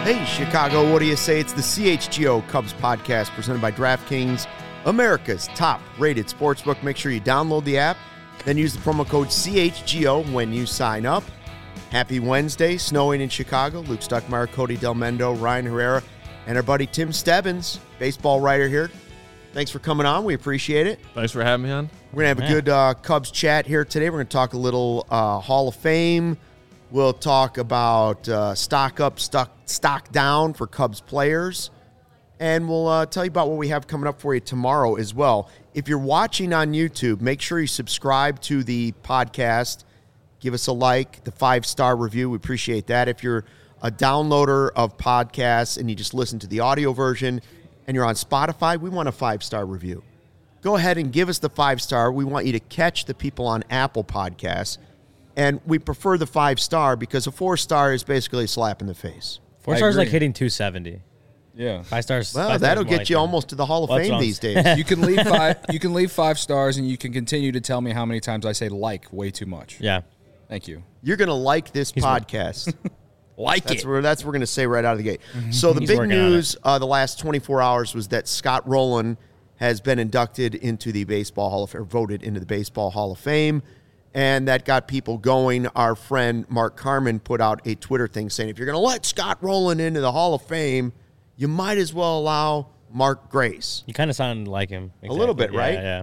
Hey, Chicago, what do you say? It's the CHGO Cubs podcast presented by DraftKings, America's top-rated sportsbook. Make sure you download the app, then use the promo code CHGO when you sign up. Happy Wednesday, snowing in Chicago. Luke Stuckmeyer, Cody Del Mendo, Ryan Herrera, and our buddy Tim Stebbins, baseball writer here. Thanks for coming on. We appreciate it. Thanks for having me on. We're going to have a good Cubs chat here today. We're going to talk a little Hall of Fame. We'll talk about stock up, stock down for Cubs players. And we'll tell you about what we have coming up for you tomorrow as well. If you're watching on YouTube, make sure you subscribe to the podcast. Give us a like, the 5-star review. We appreciate that. If you're a downloader of podcasts and you just listen to the audio version and you're on Spotify, we want a 5-star review. Go ahead and give us the 5-star. We want you to catch the people on Apple Podcasts. And we prefer the 5-star because a 4-star is basically a slap in the face. 4 stars like hitting 270. Yeah. 5 stars. Well, 5 that'll stars get like you almost to the Hall of Fame these days. You can leave 5. You can leave 5 stars, and you can continue to tell me how many times I say like way too much. Yeah. Thank you. You're going to like this podcast. That's what we're going to say right out of the gate. So the big news the last 24 hours was that Scott Rowland has been inducted into the Baseball Hall of Fame, or voted into the Baseball Hall of Fame. And that got people going. Our friend Mark Carman put out a Twitter thing saying, if you're going to let Scott Rowland into the Hall of Fame, you might as well allow Mark Grace. You kind of sound like him. Exactly. A little bit, right? Yeah.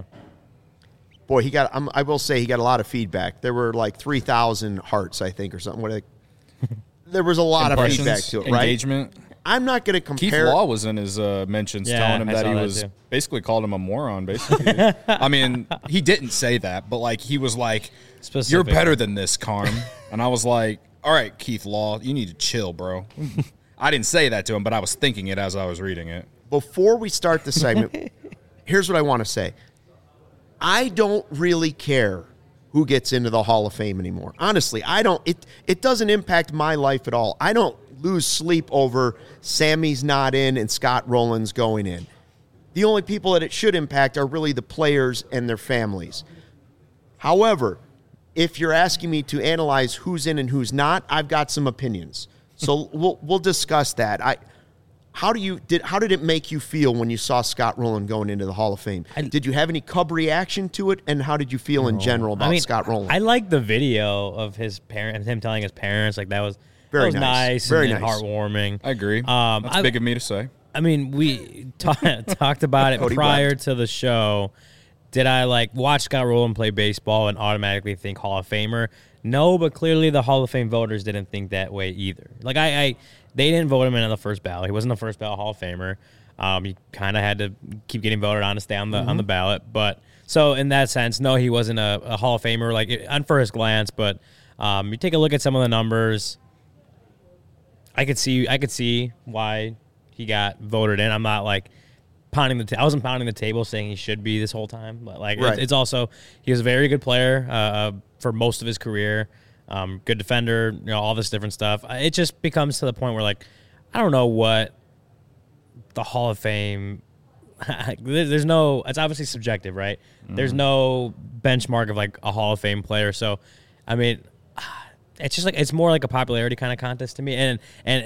Boy, I will say he got a lot of feedback. There were like 3,000 hearts, I think, or something. There was a lot of feedback to it, right? Engagement. I'm not going to compare. Keith Law was in his mentions telling him that he was basically called him a moron, basically. I mean, he didn't say that, but like he was like, you're better than this, Carm. And I was like, all right, Keith Law, you need to chill, bro. I didn't say that to him, but I was thinking it as I was reading it. Before we start the segment, here's what I want to say. I don't really care who gets into the Hall of Fame anymore. Honestly, I don't. It doesn't impact my life at all. I don't lose sleep over Sammy's not in and Scott Rowland's going in. The only people that it should impact are really the players and their families. However, if you're asking me to analyze who's in and who's not, I've got some opinions. So we'll discuss that. How did it make you feel when you saw Scott Rowland going into the Hall of Fame? Did you have any Cub reaction to it, and how did you feel in general about Scott Rowland? I like the video of his parents, him telling his parents, like that was very nice, very and nice, heartwarming. I agree. That's big of me to say. I mean, we talked about it prior to the show. Did I watch Scott Rowland play baseball and automatically think Hall of Famer? No, but clearly the Hall of Fame voters didn't think that way either. They didn't vote him in on the first ballot. He wasn't the first ballot Hall of Famer. You kind of had to keep getting voted on to stay on the ballot. But so in that sense, no, he wasn't a Hall of Famer on first glance. But you take a look at some of the numbers. I could see why he got voted in. I'm not pounding I wasn't pounding the table saying he should be this whole time. But right. It's also he was a very good player for most of his career. Good defender, all this different stuff. It just becomes to the point where I don't know what the Hall of Fame. There's no. It's obviously subjective, right? Mm-hmm. There's no benchmark of a Hall of Fame player. So, I mean, it's just it's more like a popularity kind of contest to me. And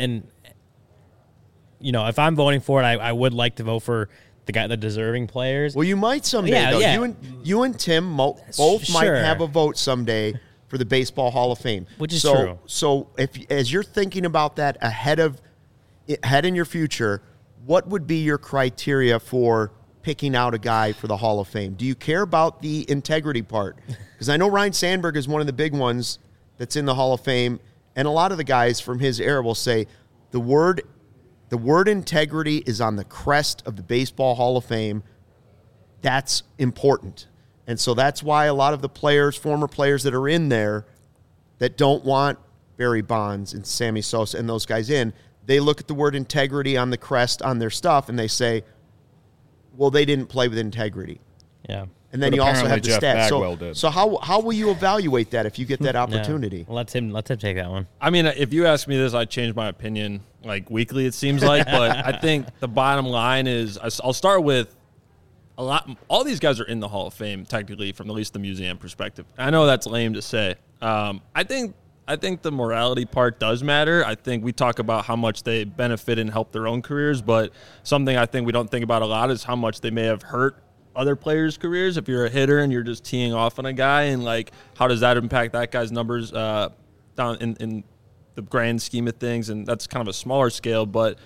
if I'm voting for it, I would like to vote for the deserving players. Well, you might someday. Though. Yeah. You and Tim both might have a vote someday for the Baseball Hall of Fame, which is true. So, as you're thinking about that ahead in your future, what would be your criteria for picking out a guy for the Hall of Fame? Do you care about the integrity part? Because I know Ryne Sandberg is one of the big ones that's in the Hall of Fame, and a lot of the guys from his era will say the word integrity is on the crest of the Baseball Hall of Fame. That's important. And so that's why a lot of the former players that are in there that don't want Barry Bonds and Sammy Sosa and those guys in, they look at the word integrity on the crest on their stuff and they say, well, they didn't play with integrity. Yeah. And then you also have the stats. So how will you evaluate that if you get that opportunity? Yeah. Let him take that one. I mean, if you ask me this, I change my opinion weekly, it seems like. But I think the bottom line is I'll start with all these guys are in the Hall of Fame, technically, from at least the museum perspective. I know that's lame to say. I think I think the morality part does matter. I think we talk about how much they benefit and help their own careers, but something I think we don't think about a lot is how much they may have hurt other players' careers. If you're a hitter and you're just teeing off on a guy, and like, how does that impact that guy's numbers down in the grand scheme of things? And that's kind of a smaller scale, but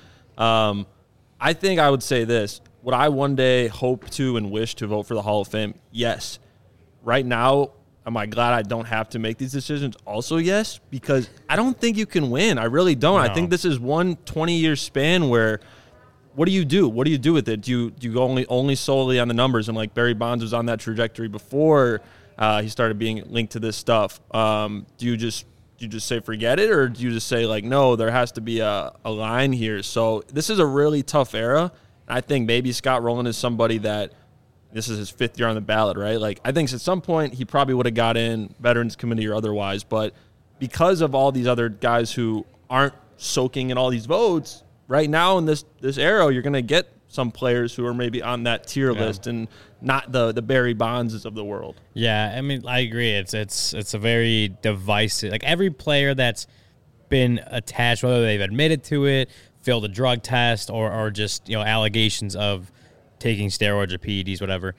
I think I would say this. Would I one day hope to and wish to vote for the Hall of Fame? Yes. Right now, am I glad I don't have to make these decisions? Also, yes, because I don't think you can win. I really don't. No. I think this is one 20-year span where what do you do? What do you do with it? Do you go only solely on the numbers? And like Barry Bonds was on that trajectory before he started being linked to this stuff. Do you just say forget it, or do you just say like, no, there has to be a line here? So this is a really tough era. I think maybe Scott Rowland is somebody that this is his 5th year on the ballot, right? Like, I think at some point he probably would have got in, Veterans Committee or otherwise, but because of all these other guys who aren't soaking in all these votes, right now in this era, you're going to get some players who are maybe on that tier list and not the Barry Bondses of the world. Yeah, I mean, I agree. It's a very divisive. Like, every player that's been attached, whether they've admitted to it, failed a drug test, or just, you know, allegations of taking steroids or PEDs, whatever.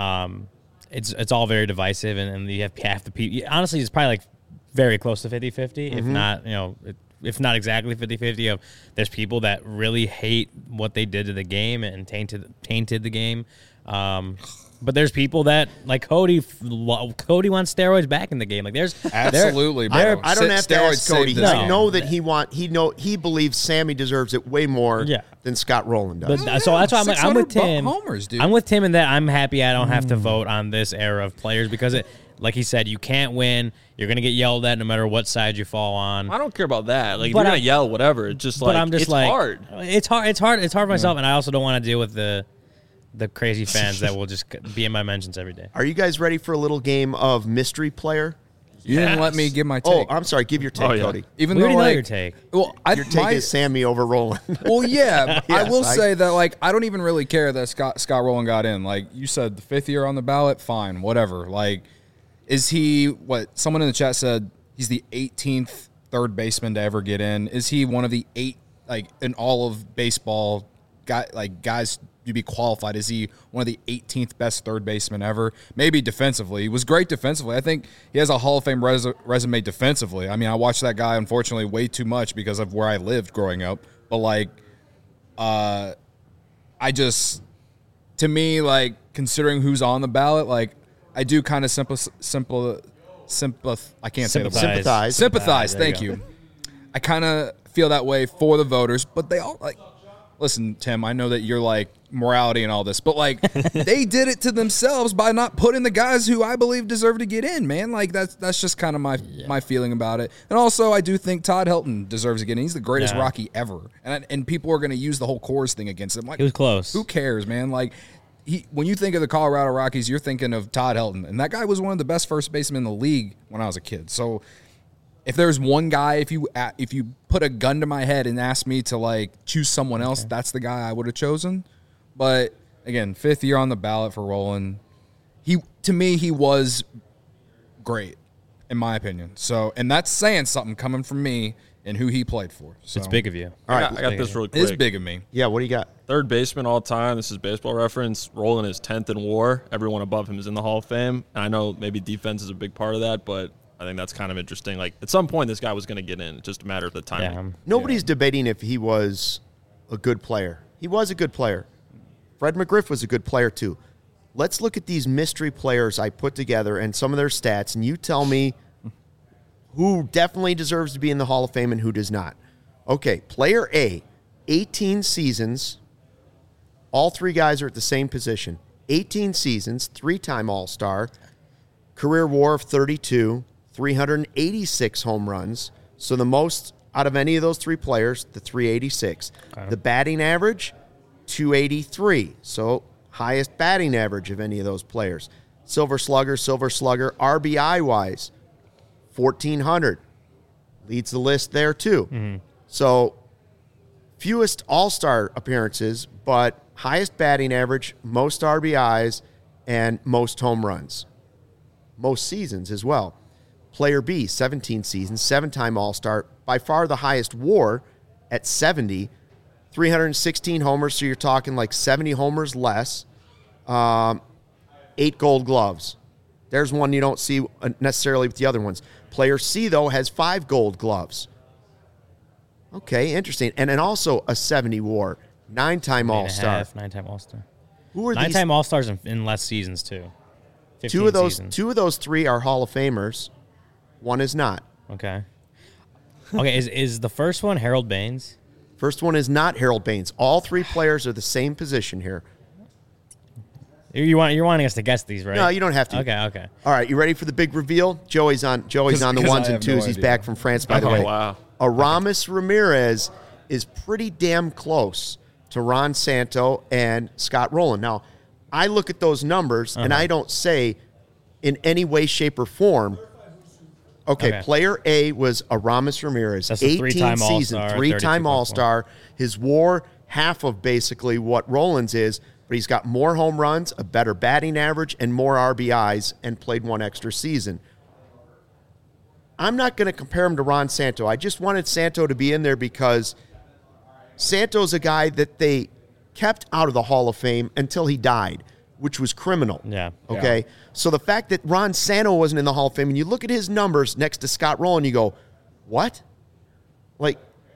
It's all very divisive, and you have half the people. Honestly, it's probably like very close to 50-50, if not, you know, if not exactly 50-50. Of there's people that really hate what they did to the game and tainted the game. But there's people that, like Cody wants steroids back in the game. Like there's absolutely. I don't have to ask Cody. I know that he believes Sammy deserves it way more than Scott Rowland does. But, so that's why I'm like, I'm with Tim. Homers, dude. I'm with Tim in that I'm happy I don't have to vote on this era of players, because it, like he said, you can't win. You're gonna get yelled at no matter what side you fall on. I don't care about that. Like, you're gonna yell, whatever. It's just like, it's hard. It's hard for myself, and I also don't want to deal with the crazy fans that will just be in my mentions every day. Are you guys ready for a little game of mystery player? You didn't let me give my take. Oh, I'm sorry. Give your take, Cody. Even though, know your take. Well, your take is Sammy over Rowland. Well, yeah. Yes, I will say that, like, I don't even really care that Scott Rowland got in. Like you said, the 5th year on the ballot, fine, whatever. Like, is he what? Someone in the chat said he's the 18th third baseman to ever get in. Is he one of the 8, like, in all of baseball, guys to be qualified? Is he one of the 18th best third basemen ever? Maybe defensively. He was great defensively. I think he has a Hall of Fame resume defensively. I mean, I watched that guy, unfortunately, way too much because of where I lived growing up. But, like, to me, like, considering who's on the ballot, like, I do kind of sympathize. Thank you. I kind of feel that way for the voters, but they all, like, listen, Tim, I know that you're like morality and all this, but like they did it to themselves by not putting the guys who I believe deserve to get in, man. Like that's just kind of my feeling about it. And also, I do think Todd Helton deserves to get in. He's the greatest Rocky ever, and people are going to use the whole Coors thing against him. Like, he was close. Who cares, man? Like, when you think of the Colorado Rockies, you're thinking of Todd Helton, and that guy was one of the best first basemen in the league when I was a kid. So, if there's one guy, if you put a gun to my head and asked me to, like, choose someone else, that's the guy I would have chosen. But again, 5th year on the ballot for Rowland. To me, he was great, in my opinion. So, and that's saying something coming from me and who he played for. So. It's big of you. All right, I got this really quick. It is big of me. Yeah, what do you got? Third baseman all time. This is Baseball Reference. Rowland is 10th in WAR. Everyone above him is in the Hall of Fame. And I know maybe defense is a big part of that, but I think that's kind of interesting. Like, at some point, this guy was going to get in. It's just a matter of the timing. Yeah. Nobody's debating if he was a good player. He was a good player. Fred McGriff was a good player, too. Let's look at these mystery players I put together and some of their stats, and you tell me who definitely deserves to be in the Hall of Fame and who does not. Okay, player A, 18 seasons. All 3 guys are at the same position. 18 seasons, 3-time All-Star, career WAR of 32, 386 home runs. So the most out of any of those 3 players, the 386. Okay. The batting average, 283. So highest batting average of any of those players. Silver Slugger, RBI-wise, 1,400. Leads the list there, too. Mm-hmm. So fewest All-Star appearances, but highest batting average, most RBIs, and most home runs. Most seasons as well. Player B, 17 seasons, 7-time All-Star, by far the highest WAR at 70, 316 homers, so you're talking like 70 homers less, 8 Gold Gloves. There's one you don't see necessarily with the other ones. Player C, though, has 5 Gold Gloves. Okay, interesting. And then also a 70 WAR, 9-time All-Star. 9-time All-Star. Who are 9-time All-Stars in less seasons, too. Two of those 3 are Hall of Famers. One is not. Okay. Okay, is the first one Harold Baines? First one is not Harold Baines. All 3 players are the same position here. You're wanting us to guess these, right? No, you don't have to. Okay. All right, you ready for the big reveal? Joey's on the ones and twos. He's back from France, by the way. Wow. Aramis Ramirez is pretty damn close to Ron Santo and Scott Rowland. Now, I look at those numbers, and I don't say in any way, shape, or form, okay. Player A was Aramis Ramirez. That's 18 season, 3-time All-Star. His WAR, half of basically what Rowland's is, but he's got more home runs, a better batting average, and more RBIs, and played 1 extra season. I'm not going to compare him to Ron Santo. I just wanted Santo to be in there because Santo's a guy that they kept out of the Hall of Fame until he died, which was criminal. Yeah. Okay? Yeah. So the fact that Ron Santo wasn't in the Hall of Fame, and you look at his numbers next to Scott Rowland, you go, what? Like,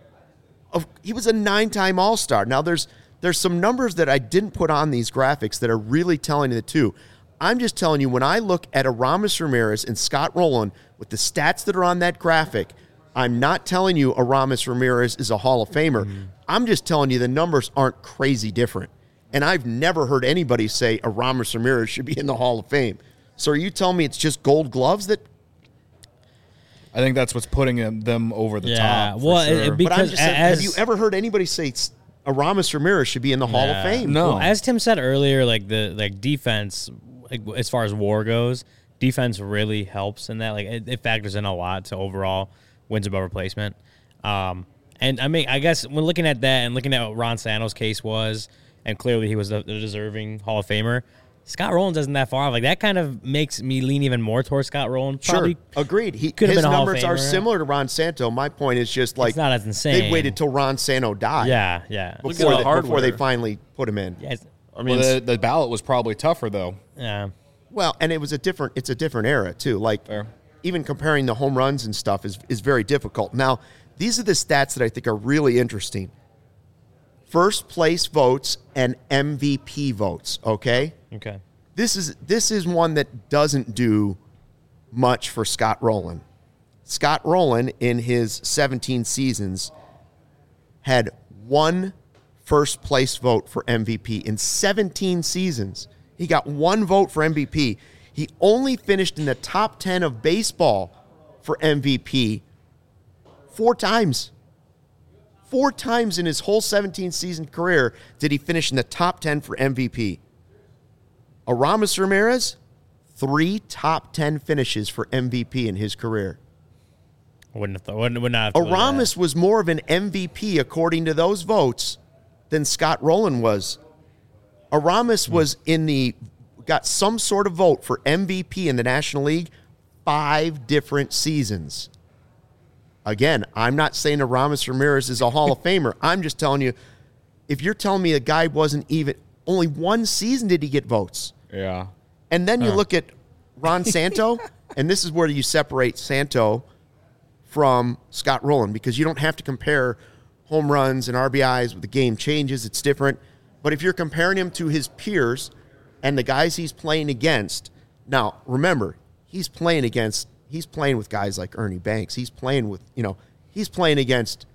he was a 9-time All-Star. Now, there's some numbers that I didn't put on these graphics that are really telling you the two. I'm just telling you, when I look at Aramis Ramirez and Scott Rowland with the stats that are on that graphic, I'm not telling you Aramis Ramirez is a Hall of Famer. Mm-hmm. I'm just telling you the numbers aren't crazy different. And I've never heard anybody say Aramis Ramirez should be in the Hall of Fame. So are you telling me it's just Gold Gloves that... I think that's what's putting them over the top. Well, sure. Because but I'm just saying, have you ever heard anybody say Aramis Ramirez should be in the Hall of Fame? No. Well, as Tim said earlier, like the defense, like as far as WAR goes, defense really helps in that. Like it factors in a lot to overall wins above replacement. And I mean, I guess when looking at that and looking at what Ron Santo's case was, and clearly he was a deserving Hall of Famer, Scott Rowland isn't that far off. Like that kind of makes me lean even more towards Scott Rowland. Probably agreed. His numbers are similar to Ron Santo. My point is just like it's not as insane. They waited till Ron Santo died. Yeah. Before they finally put him in. Yeah, I mean, the ballot was probably tougher though. Yeah. Well, and it's a different era too. Like even comparing the home runs and stuff is very difficult. Now, these are the stats that I think are really interesting. First place votes and MVP votes, okay? Okay. This is one that doesn't do much for Scott Rowland. Scott Rowland, in his 17 seasons, had 1 first place vote for MVP. In 17 seasons, he got 1 vote for MVP. He only finished in the top 10 of baseball for MVP 4 times. 4 times in his whole 17-season career did he finish in the top 10 for MVP. Aramis Ramirez, 3 top 10 finishes for MVP in his career. Would not. Aramis was more of an MVP according to those votes than Scott Rowland was. Aramis was got some sort of vote for MVP in the National League 5 different seasons. Again, I'm not saying Aramis Ramirez is a Hall of Famer. I'm just telling you, if you're telling me a guy wasn't even, only 1 season did he get votes. Yeah. And then you look at Ron Santo, and this is where you separate Santo from Scott Rowland, because you don't have to compare home runs and RBIs. The game changes. It's different. But if you're comparing him to his peers and the guys he's playing against, now, remember, he's playing with guys like Ernie Banks. He's playing against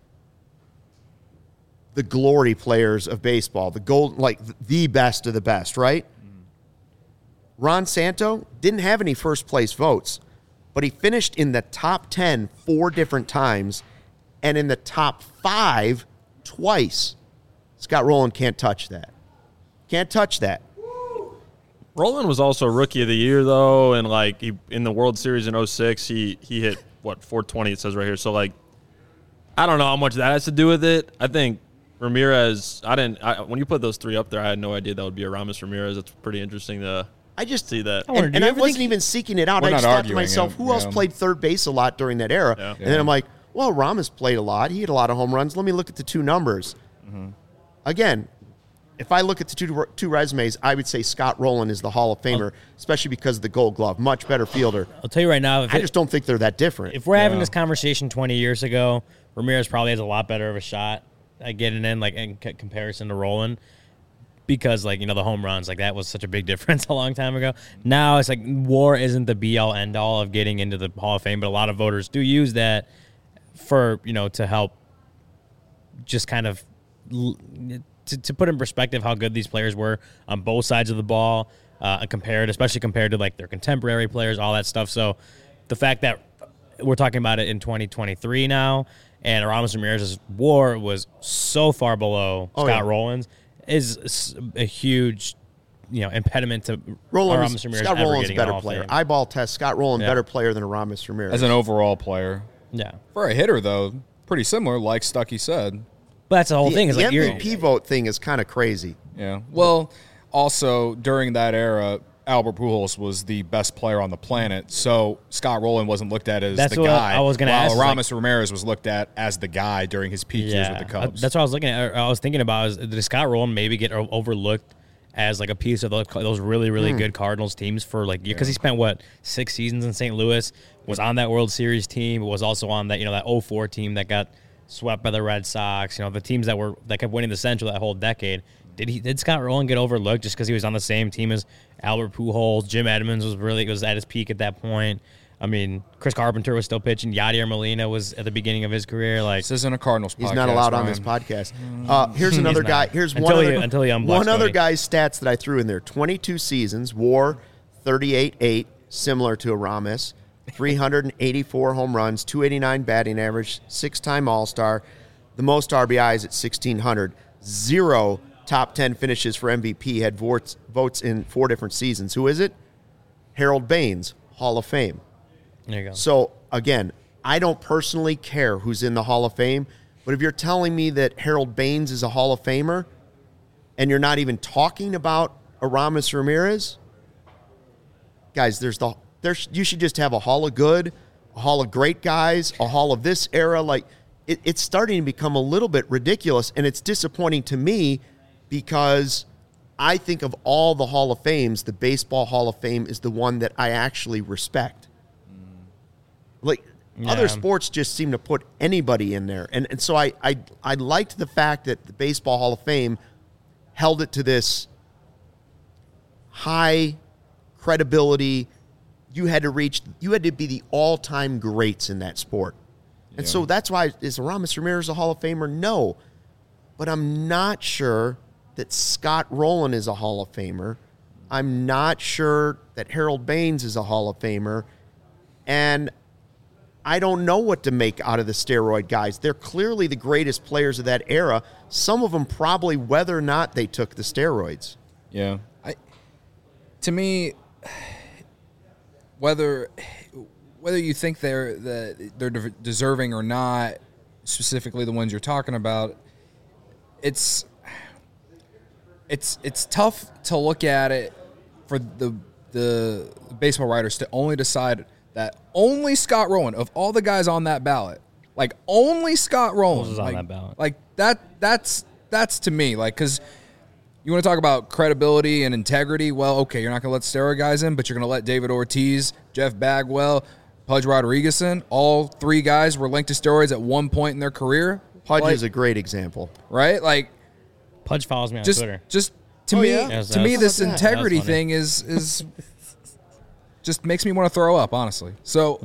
the glory players of baseball, the best of the best, right? Ron Santo didn't have any first place votes, but he finished in the top 10 4 different times and in the top 5 twice. Scott Rowland can't touch that. Can't touch that. Rowland was also Rookie of the Year, though, and in the World Series in 2006, he hit, 420 it says right here. So, I don't know how much that has to do with it. I think Ramirez, when you put those 3 up there, I had no idea that would be Aramis Ramirez. It's pretty interesting to I just see that. And I wasn't even seeking it out. I just thought to myself, who else played third base a lot during that era? Yeah. And then I'm like, well, Ramos played a lot. He had a lot of home runs. Let me look at the two numbers. Mm-hmm. Again, if I look at the two resumes, I would say Scott Rowland is the Hall of Famer, especially because of the Gold Glove. Much better fielder. I'll tell you right now. I just don't think they're that different. If we're having this conversation 20 years ago, Ramirez probably has a lot better of a shot at getting in comparison to Rowland. Because, the home runs, that was such a big difference a long time ago. Now it's WAR isn't the be-all, end-all of getting into the Hall of Fame, but a lot of voters do use that for, to help just kind of to put in perspective how good these players were on both sides of the ball, especially compared to, their contemporary players, all that stuff. So the fact that we're talking about it in 2023 now, and Aramis Ramirez's WAR was so far below Scott Rowland's, is a huge, impediment to Aramis Ramirez. Scott Rowland's a better player. Eyeball test, Scott Rowland better player than Aramis Ramirez. As an overall player. Yeah. For a hitter, though, pretty similar, like Stuckey said. But that's the whole thing. The MVP vote thing is kind of crazy. Yeah. Well, also, during that era, Albert Pujols was the best player on the planet, so Scott Rowland wasn't looked at as the guy. I was going to ask. While Aramis Ramirez was looked at as the guy during his peak years with the Cubs. That's what I was looking at. I was thinking about did Scott Rowland maybe get overlooked as a piece of those really, really good Cardinals teams for because he spent 6 seasons in St. Louis, was on that World Series team, was also on that that 04 team that got swept by the Red Sox. The teams that kept winning the Central that whole decade. Did Scott Rowland get overlooked just because he was on the same team as Albert Pujols? Jim Edmonds was at his peak at that point. I mean, Chris Carpenter was still pitching. Yadier Molina was at the beginning of his career. This isn't a Cardinals podcast. He's not allowed on this podcast. Here's another guy. Here's one other guy's stats that I threw in there. 22 seasons, WAR 38.8, similar to Aramis. 384 home runs, 289 batting average, 6-time All-Star. The most RBIs at 1,600. 0 top 10 finishes for MVP, had votes in 4 different seasons. Who is it? Harold Baines, Hall of Fame. There you go. So, again, I don't personally care who's in the Hall of Fame, but if you're telling me that Harold Baines is a Hall of Famer and you're not even talking about Aramis Ramirez, guys, you should just have a Hall of Good, a Hall of Great Guys, a Hall of this era. It's starting to become a little bit ridiculous, and it's disappointing to me because I think of all the Hall of Fames, the Baseball Hall of Fame is the one that I actually respect. Other sports just seem to put anybody in there. And so I liked the fact that the Baseball Hall of Fame held it to this high credibility. You had to be the all-time greats in that sport. And so that's why, is Aramis Ramirez a Hall of Famer? No. But I'm not sure that Scott Rowland is a Hall of Famer. I'm not sure that Harold Baines is a Hall of Famer. And I don't know what to make out of the steroid guys. They're clearly the greatest players of that era. Some of them probably whether or not they took the steroids. Yeah. To me, whether you think they're deserving or not, specifically the ones you're talking about, it's tough to look at it for the baseball writers to only decide that only Scott Rowland, of all the guys on that ballot, only Scott Rowland is on that ballot. That's to me, because you want to talk about credibility and integrity. Well, okay, you're not going to let steroid guys in, but you're going to let David Ortiz, Jeff Bagwell, Pudge Rodriguez in. All 3 guys were linked to steroids at one point in their career. Pudge is a great example. Right? Pudge follows me on Twitter. To me, this integrity thing is just makes me want to throw up, honestly. So,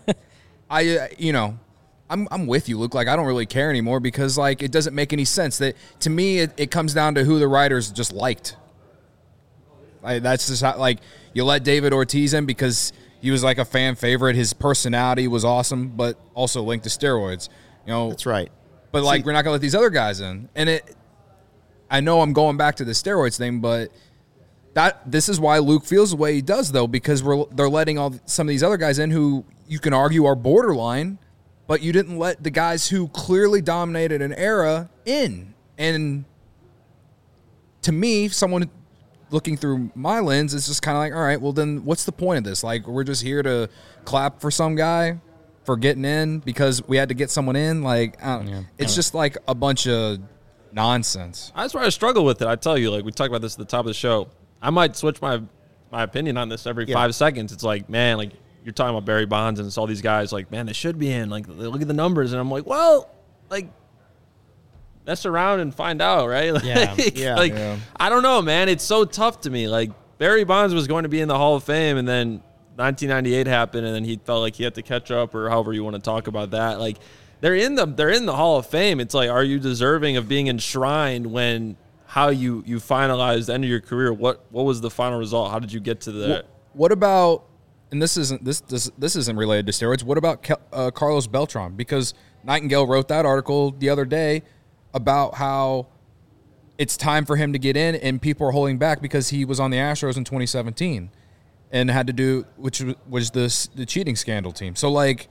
I'm with you, Luke. I don't really care anymore because, it doesn't make any sense. That to me, it comes down to who the writers just liked. That's just how, you let David Ortiz in because he was a fan favorite. His personality was awesome, but also linked to steroids. That's right. But we're not gonna let these other guys in. And I know I'm going back to the steroids thing, but this is why Luke feels the way he does, though, because they're letting some of these other guys in who you can argue are borderline, but you didn't let the guys who clearly dominated an era in. And to me, someone looking through my lens, it's just kind of like, all right, well then what's the point of this? Like, we're just here to clap for some guy for getting in because we had to get someone in. Like, it's just like a bunch of nonsense. That's where I struggle with it. I tell you, like we talked about this at the top of the show. I might switch my opinion on this every 5 seconds. It's like, man, like you're talking about Barry Bonds and it's all these guys like, man, they should be in. Like, look at the numbers. And I'm like, well, like, mess around and find out, right? Like, I don't know, man. It's so tough to me. Like, Barry Bonds was going to be in the Hall of Fame, and then 1998 happened, and then he felt like he had to catch up, or however you want to talk about that. Like, they're in the Hall of Fame. It's like, are you deserving of being enshrined when how you finalized the end of your career? What was the final result? How did you get to that? What about, and this isn't related to steroids. What about Carlos Beltran? Because Nightingale wrote that article the other day about how it's time for him to get in, and people are holding back because he was on the Astros in 2017 and had to do, which was the cheating scandal team. So like,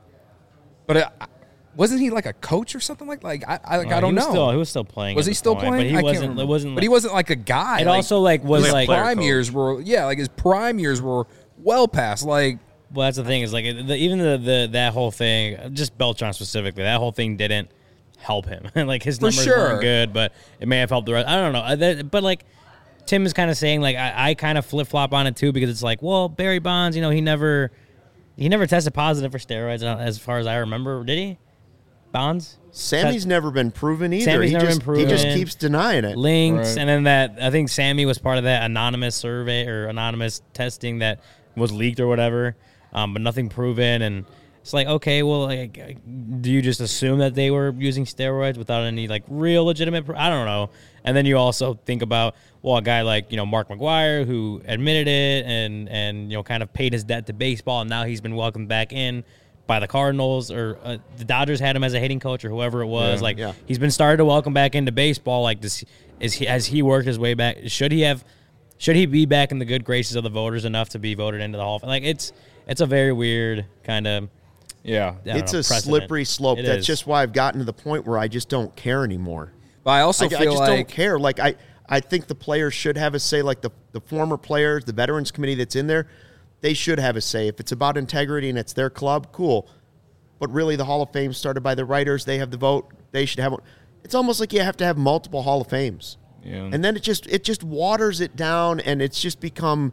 but wasn't he like a coach or something like I don't know. He was still playing. Was he still playing? But he wasn't. It wasn't. But he wasn't like a guy. It also like was like prime years were like his prime years were well past like. Well, that's the thing is like even that whole thing, just Beltran specifically, that whole thing didn't help him. Like his numbers weren't good, but it may have helped the rest. I don't know. But like Tim is kind of saying, like I kind of flip flop on it too because it's like, well, Barry Bonds, he never tested positive for steroids as far as I remember. Did he? Bonds? Sammy's never been proven either. Sammy's never been proven. He just keeps denying it. Links, right. And then that I think Sammy was part of that anonymous survey or anonymous testing that was leaked or whatever, but nothing proven. And it's like, okay, well, like, do you just assume that they were using steroids without any like real legitimate? I don't know. And then you also think about, well, a guy like Mark McGwire who admitted it and kind of paid his debt to baseball, and now he's been welcomed back in by the Cardinals, or the Dodgers had him as a hitting coach or whoever it was. He's been started to welcome back into baseball. Like, has he worked his way back? Should he be back in the good graces of the voters enough to be voted into the Hall of Fame? Like, it's a very weird kind of. Yeah, it's a slippery slope. That's just why I've gotten to the point where I just don't care anymore. But I also feel I just don't care. Like, I think the players should have a say. Like the former players, the Veterans Committee that's in there, they should have a say. If it's about integrity and it's their club, cool. But really, the Hall of Fame started by the writers. They have the vote. They should have one. It's almost like you have to have multiple Hall of Fames. Yeah. And then it just waters it down, and it's just become.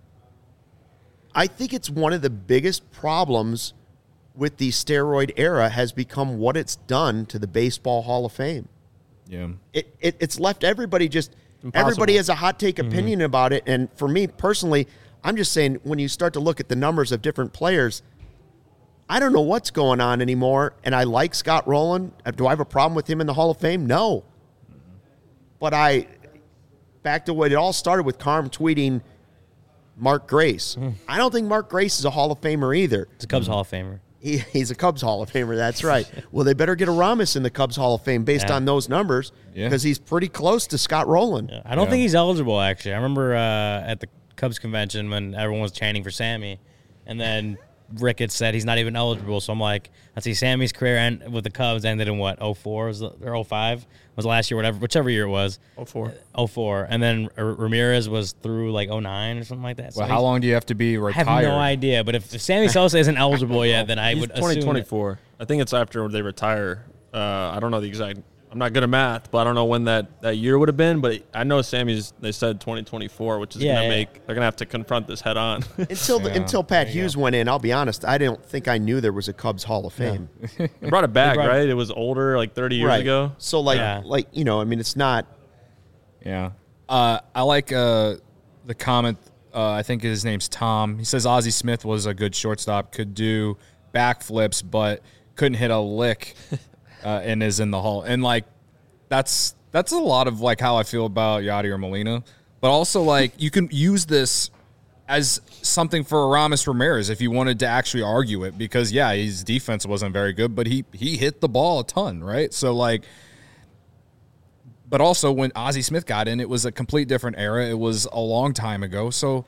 I think it's one of the biggest problems with the steroid era has become what it's done to the Baseball Hall of Fame. Yeah. It's left everybody just Impossible. Everybody has a hot take opinion about it, and for me personally, I'm just saying when you start to look at the numbers of different players, I don't know what's going on anymore, and I like Scott Rowland. Do I have a problem with him in the Hall of Fame? No. But back to what it all started with, Carm tweeting Mark Grace. I don't think Mark Grace is a Hall of Famer either. It's a Cubs Hall of Famer. He's a Cubs Hall of Famer, that's right. Well, they better get a Ramos in the Cubs Hall of Fame based on those numbers because he's pretty close to Scott Rowland. Yeah. I don't think he's eligible, actually. I remember at the Cubs convention when everyone was chanting for Sammy, and then Ricketts said he's not even eligible. So I'm like, let's see, Sammy's career with the Cubs ended in what, 04 or 05 was last year, whichever year it was. 04. And then Ramirez was through like 09 or something like that. Well, so how long do you have to be retired? I have no idea. But if Sammy Sosa isn't eligible yet, then I would assume 2024. I think it's after they retire. I don't know the exact. I'm not good at math, but I don't know when that year would have been. But I know they said 2024, which is they're gonna have to confront this head on. Until Pat Hughes went in, I'll be honest, I don't think I knew there was a Cubs Hall of Fame. They brought it back, right? It was older, like 30 years ago. So it's not. Yeah. I like the comment. I think his name's Tom. He says Ozzie Smith was a good shortstop, could do backflips, but couldn't hit a lick. And is in the Hall. And, like, that's a lot of, like, how I feel about Yadier Molina. But also, like, you can use this as something for Aramis Ramirez if you wanted to actually argue it. Because, his defense wasn't very good, but he hit the ball a ton, right? So, like, but also when Ozzie Smith got in, it was a complete different era. It was a long time ago. So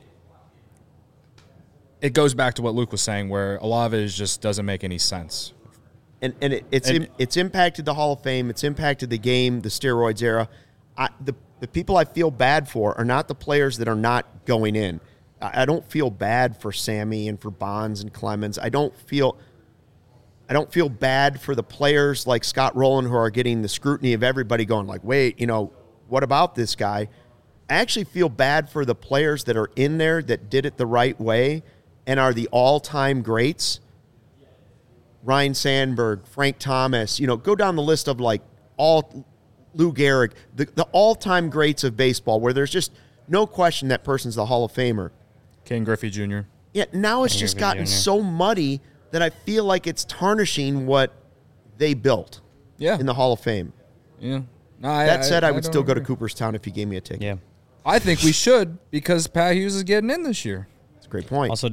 it goes back to what Luke was saying, where a lot of it just doesn't make any sense. And it's impacted the Hall of Fame. It's impacted the game, the steroids era. the people I feel bad for are not the players that are not going in. I don't feel bad for Sammy and for Bonds and Clemens. I don't feel bad for the players like Scott Rowland who are getting the scrutiny of everybody going like, wait, what about this guy? I actually feel bad for the players that are in there that did it the right way and are the all-time greats. Ryan Sandberg, Frank Thomas, go down the list of like Lou Gehrig, the all-time greats of baseball where there's just no question that person's the Hall of Famer. Ken Griffey Jr. Yeah, now it's just gotten so muddy that I feel like it's tarnishing what they built in the Hall of Fame. Yeah. No, that said, I would still go to Cooperstown if you gave me a ticket. Yeah. I think we should because Pat Hughes is getting in this year. That's a great point. Also,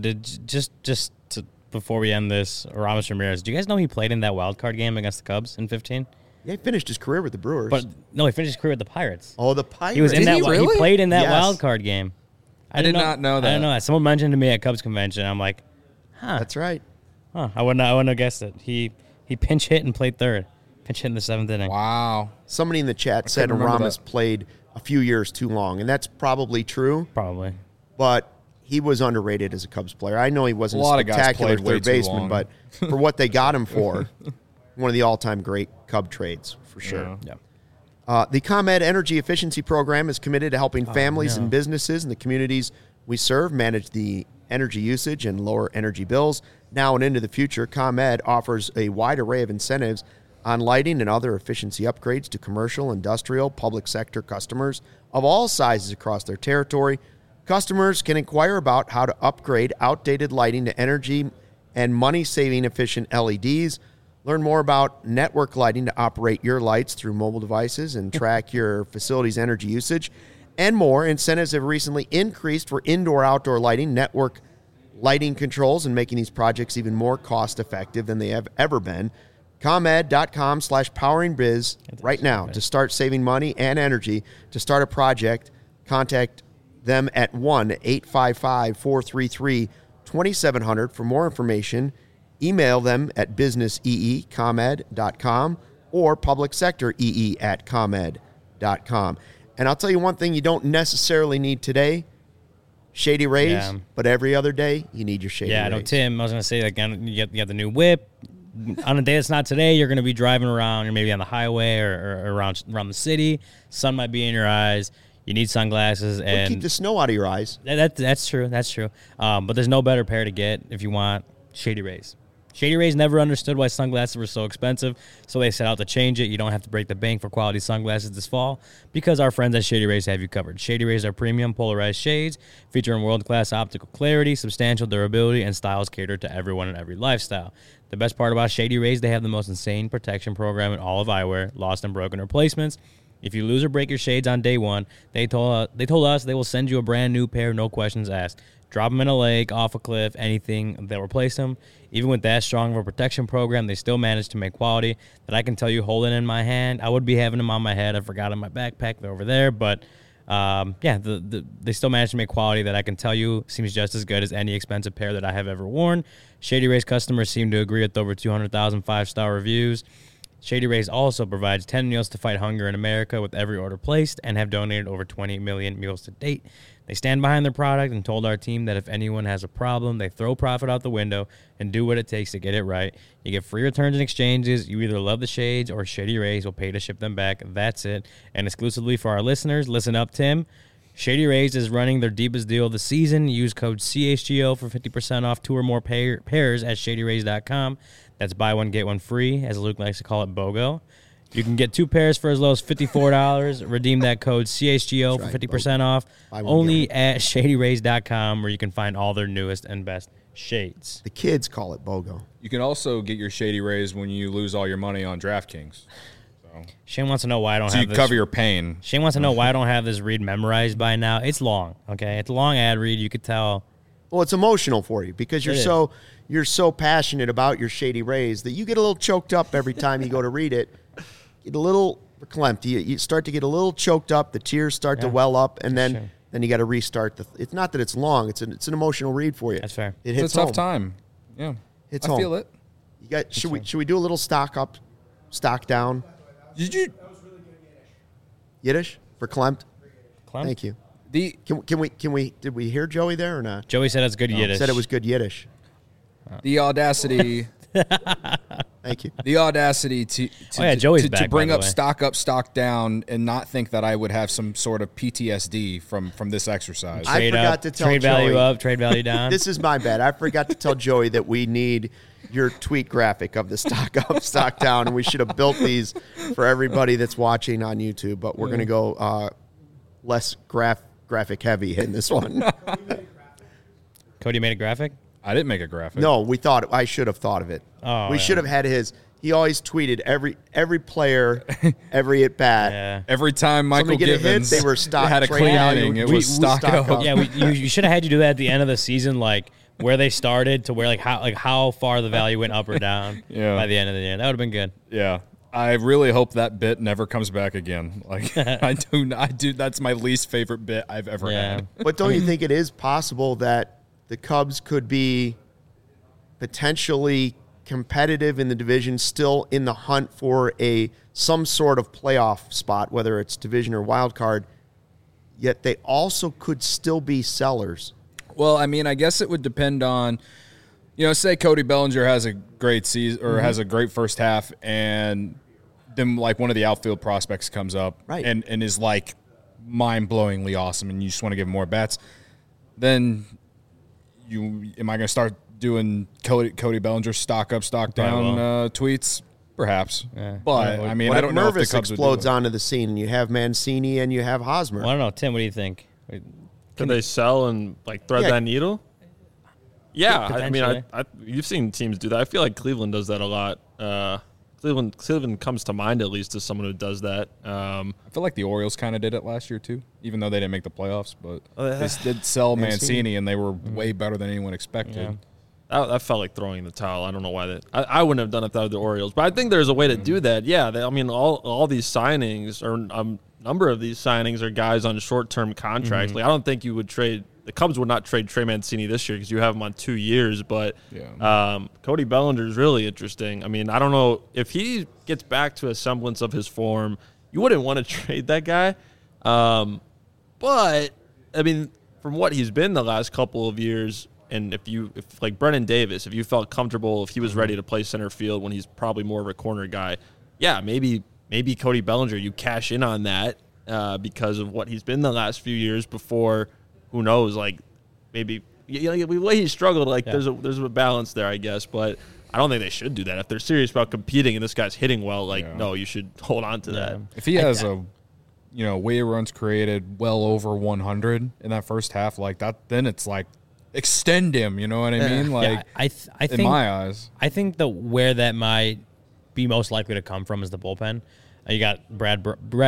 before we end this, Aramis Ramirez, do you guys know he played in that wild card game against the Cubs in 2015? Yeah, he finished his career with the Brewers. But no, he finished his career with the Pirates. Oh, the Pirates. He was in that. Really? He played in that wild card game. I did not know that. I don't know that. Someone mentioned to me at Cubs convention. I'm like, That's right. I wouldn't have guessed it. He pinch hit and played third. Pinch hit in the 7th inning. Wow. Somebody in the chat said Aramis played a few years too long, and that's probably true. Probably. But he was underrated as a Cubs player. I know he wasn't a spectacular third baseman, but for what they got him for, one of the all-time great Cub trades, for sure. Yeah. The ComEd Energy Efficiency Program is committed to helping families and businesses in the communities we serve manage the energy usage and lower energy bills. Now and into the future, ComEd offers a wide array of incentives on lighting and other efficiency upgrades to commercial, industrial, public sector customers of all sizes across their territory. Customers can inquire about how to upgrade outdated lighting to energy and money-saving efficient LEDs. Learn more about network lighting to operate your lights through mobile devices and track your facility's energy usage. And more. Incentives have recently increased for indoor-outdoor lighting, network lighting controls, and making these projects even more cost-effective than they have ever been. ComEd.com/poweringbiz right now to start saving money and energy. To start a project, contact them at 1-855-433-2700 for more information. Email them at businessee@comed.com or publicsectoree@comed.com. And I'll tell you one thing you don't necessarily need today, Shady Rays, but every other day you need your Shady Rays. Yeah, I know, Tim, I was going to say, like, you got the new whip. On a day that's not today, you're going to be driving around. You're maybe on the highway or around the city. Sun might be in your eyes. You need sunglasses. And keep the snow out of your eyes. That's true. That's true. But there's no better pair to get if you want Shady Rays. Shady Rays never understood why sunglasses were so expensive, so they set out to change it. You don't have to break the bank for quality sunglasses this fall because our friends at Shady Rays have you covered. Shady Rays are premium polarized shades featuring world-class optical clarity, substantial durability, and styles catered to everyone in every lifestyle. The best part about Shady Rays, they have the most insane protection program in all of eyewear, lost and broken replacements. If you lose or break your shades on day one, they told us they will send you a brand new pair, no questions asked. Drop them in a lake, off a cliff, anything, they'll replace them. Even with that strong of a protection program, they still manage to make quality that I can tell you holding in my hand. I would be having them on my head. I forgot in my backpack. They're over there. But, they still manage to make quality that I can tell you seems just as good as any expensive pair that I have ever worn. Shady Rays customers seem to agree with over 200,000 5-star reviews. Shady Rays also provides 10 meals to fight hunger in America with every order placed and have donated over 20 million meals to date. They stand behind their product and told our team that if anyone has a problem, they throw profit out the window and do what it takes to get it right. You get free returns and exchanges. You either love the shades or Shady Rays will pay to ship them back. That's it. And exclusively for our listeners, listen up, Tim. Shady Rays is running their deepest deal of the season. Use code CHGO for 50% off 2 or more pairs at shadyrays.com. That's buy one, get one free, as Luke likes to call it, BOGO. You can get 2 pairs for as low as $54. Redeem that code CHGO for 50% off only at shadyrays.com, where you can find all their newest and best shades. The kids call it BOGO. You can also get your Shady Rays when you lose all your money on DraftKings. Shane wants to know why I don't have this. So you cover your pain. Shane wants to know why I don't have this read memorized by now. It's long, okay? It's a long ad read. You could tell. Well, it's emotional for you because you're so passionate about your Shady Rays that you get a little choked up every time you go to read it. Get a little verklempt. You start to get a little choked up. The tears start to well up, and then you got to restart. It's not that it's long. It's an emotional read for you. That's fair. It hits it's a tough time. Yeah, it's I feel it. You got. Should we do a little stock up, stock down? Did you? Yiddish? For Klimt? Klimt? Thank you. Can we did we hear Joey there or not? Joey said it's good Yiddish. Said it was good Yiddish. The audacity. Thank you. The audacity to bring up, stock down, and not think that I would have some sort of PTSD from this exercise. I forgot to tell trade Joey, value up, trade value down. This is my bad. I forgot to tell Joey that we need your tweet graphic of the stock up, stock down, and we should have built these for everybody that's watching on YouTube. But we're going to go less graphic heavy in this one. Cody made a graphic? I didn't make a graphic. No, I should have thought of it. We should have had his. He always tweeted every player, every at bat. Yeah. Every time Michael Givens they were stock had a clean inning, it was stock up. Yeah, you should have had you do that at the end of the season, like where they started to where how far the value went up or down by the end of the year. That would have been good. Yeah. I really hope that bit never comes back again. Like I do. That's my least favorite bit I've ever had. But don't you think it is possible that the Cubs could be potentially competitive in the division, still in the hunt for some sort of playoff spot, whether it's division or wild card, yet they also could still be sellers? Well, I mean, I guess it would depend on, say Cody Bellinger has a great season or has a great first half, and then like one of the outfield prospects comes up and is like mind-blowingly awesome, and you just want to give him more bats. Then am I going to start doing Cody Bellinger stock up, stock down tweets? Perhaps. Yeah. But, I mean, I don't know if the Cubs explodes onto the scene and you have Mancini and you have Hosmer. Well, I don't know. Tim, what do you think? Can they sell and thread that needle? Yeah. I mean, you've seen teams do that. I feel like Cleveland does that a lot. Cleveland comes to mind, at least, as someone who does that. I feel like the Orioles kind of did it last year, too, even though they didn't make the playoffs. But they did sell Mancini, and they were way better than anyone expected. Yeah. That felt like throwing the towel. I don't know why I wouldn't have done it without the Orioles. But I think there's a way to do that. Yeah, all these signings, or a number of these signings, are guys on short-term contracts. Like, I don't think you would trade – the Cubs would not trade Trey Mancini this year because you have him on 2 years. But Cody Bellinger is really interesting. I mean, I don't know. If he gets back to a semblance of his form, you wouldn't want to trade that guy. But, I mean, from what he's been the last couple of years, and if like Brennan Davis, if you felt comfortable, if he was ready to play center field when he's probably more of a corner guy, maybe Cody Bellinger, you cash in on that because of what he's been the last few years before. Who knows? Like, maybe the way he struggled. Like, there's a balance there, I guess. But I don't think they should do that. If they're serious about competing and this guy's hitting well, no, you should hold on to that. If he has weighted runs created well over 100 in that first half, like that, then it's like extend him. You know what I mean? Like, I think, in my eyes, I think where that might be most likely to come from is the bullpen. You got Brad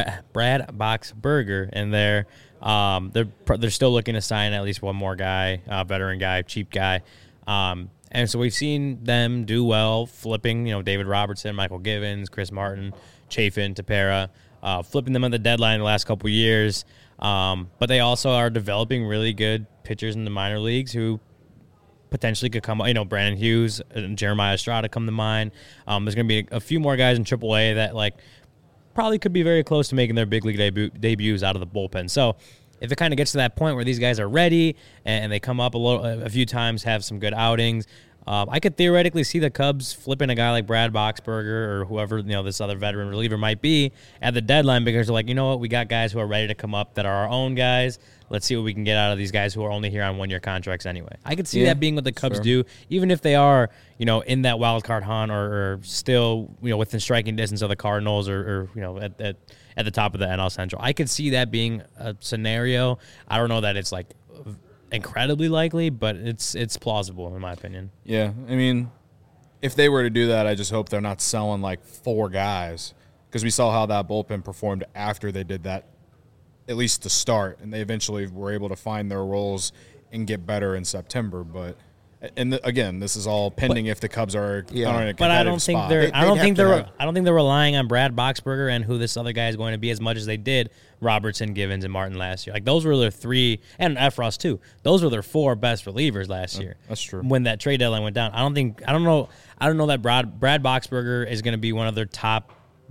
Boxberger in there. They're still looking to sign at least one more guy, veteran guy, cheap guy. And so we've seen them do well, flipping, David Robertson, Michael Givens, Chris Martin, Chafin, Tepera, flipping them on the deadline the last couple of years. But they also are developing really good pitchers in the minor leagues who potentially could come, Brandon Hughes and Jeremiah Estrada come to mind. There's going to be a few more guys in AAA that, probably could be very close to making their big league debuts out of the bullpen. So if it kind of gets to that point where these guys are ready and they come up a few times, have some good outings, I could theoretically see the Cubs flipping a guy like Brad Boxberger or whoever this other veteran reliever might be at the deadline because they're like, you know what, we got guys who are ready to come up that are our own guys. Let's see what we can get out of these guys who are only here on one-year contracts anyway. I could see that being what the Cubs do, even if they are, in that wild card hunt or still, within striking distance of the Cardinals or at the top of the NL Central. I could see that being a scenario. I don't know that it's incredibly likely, but it's plausible in my opinion. Yeah, I mean, if they were to do that, I just hope they're not selling 4 guys because we saw how that bullpen performed after they did that. At least to start, and they eventually were able to find their roles and get better in September. But again, this is all pending if the Cubs are in a competitive but I don't think spot. I don't think they're relying on Brad Boxberger and who this other guy is going to be as much as they did Robertson, Givens, and Martin last year. Those were their 3, and Efros too. Those were their 4 best relievers last year. That's true. When that trade deadline went down, I don't know that Brad Boxberger is going to be one of their top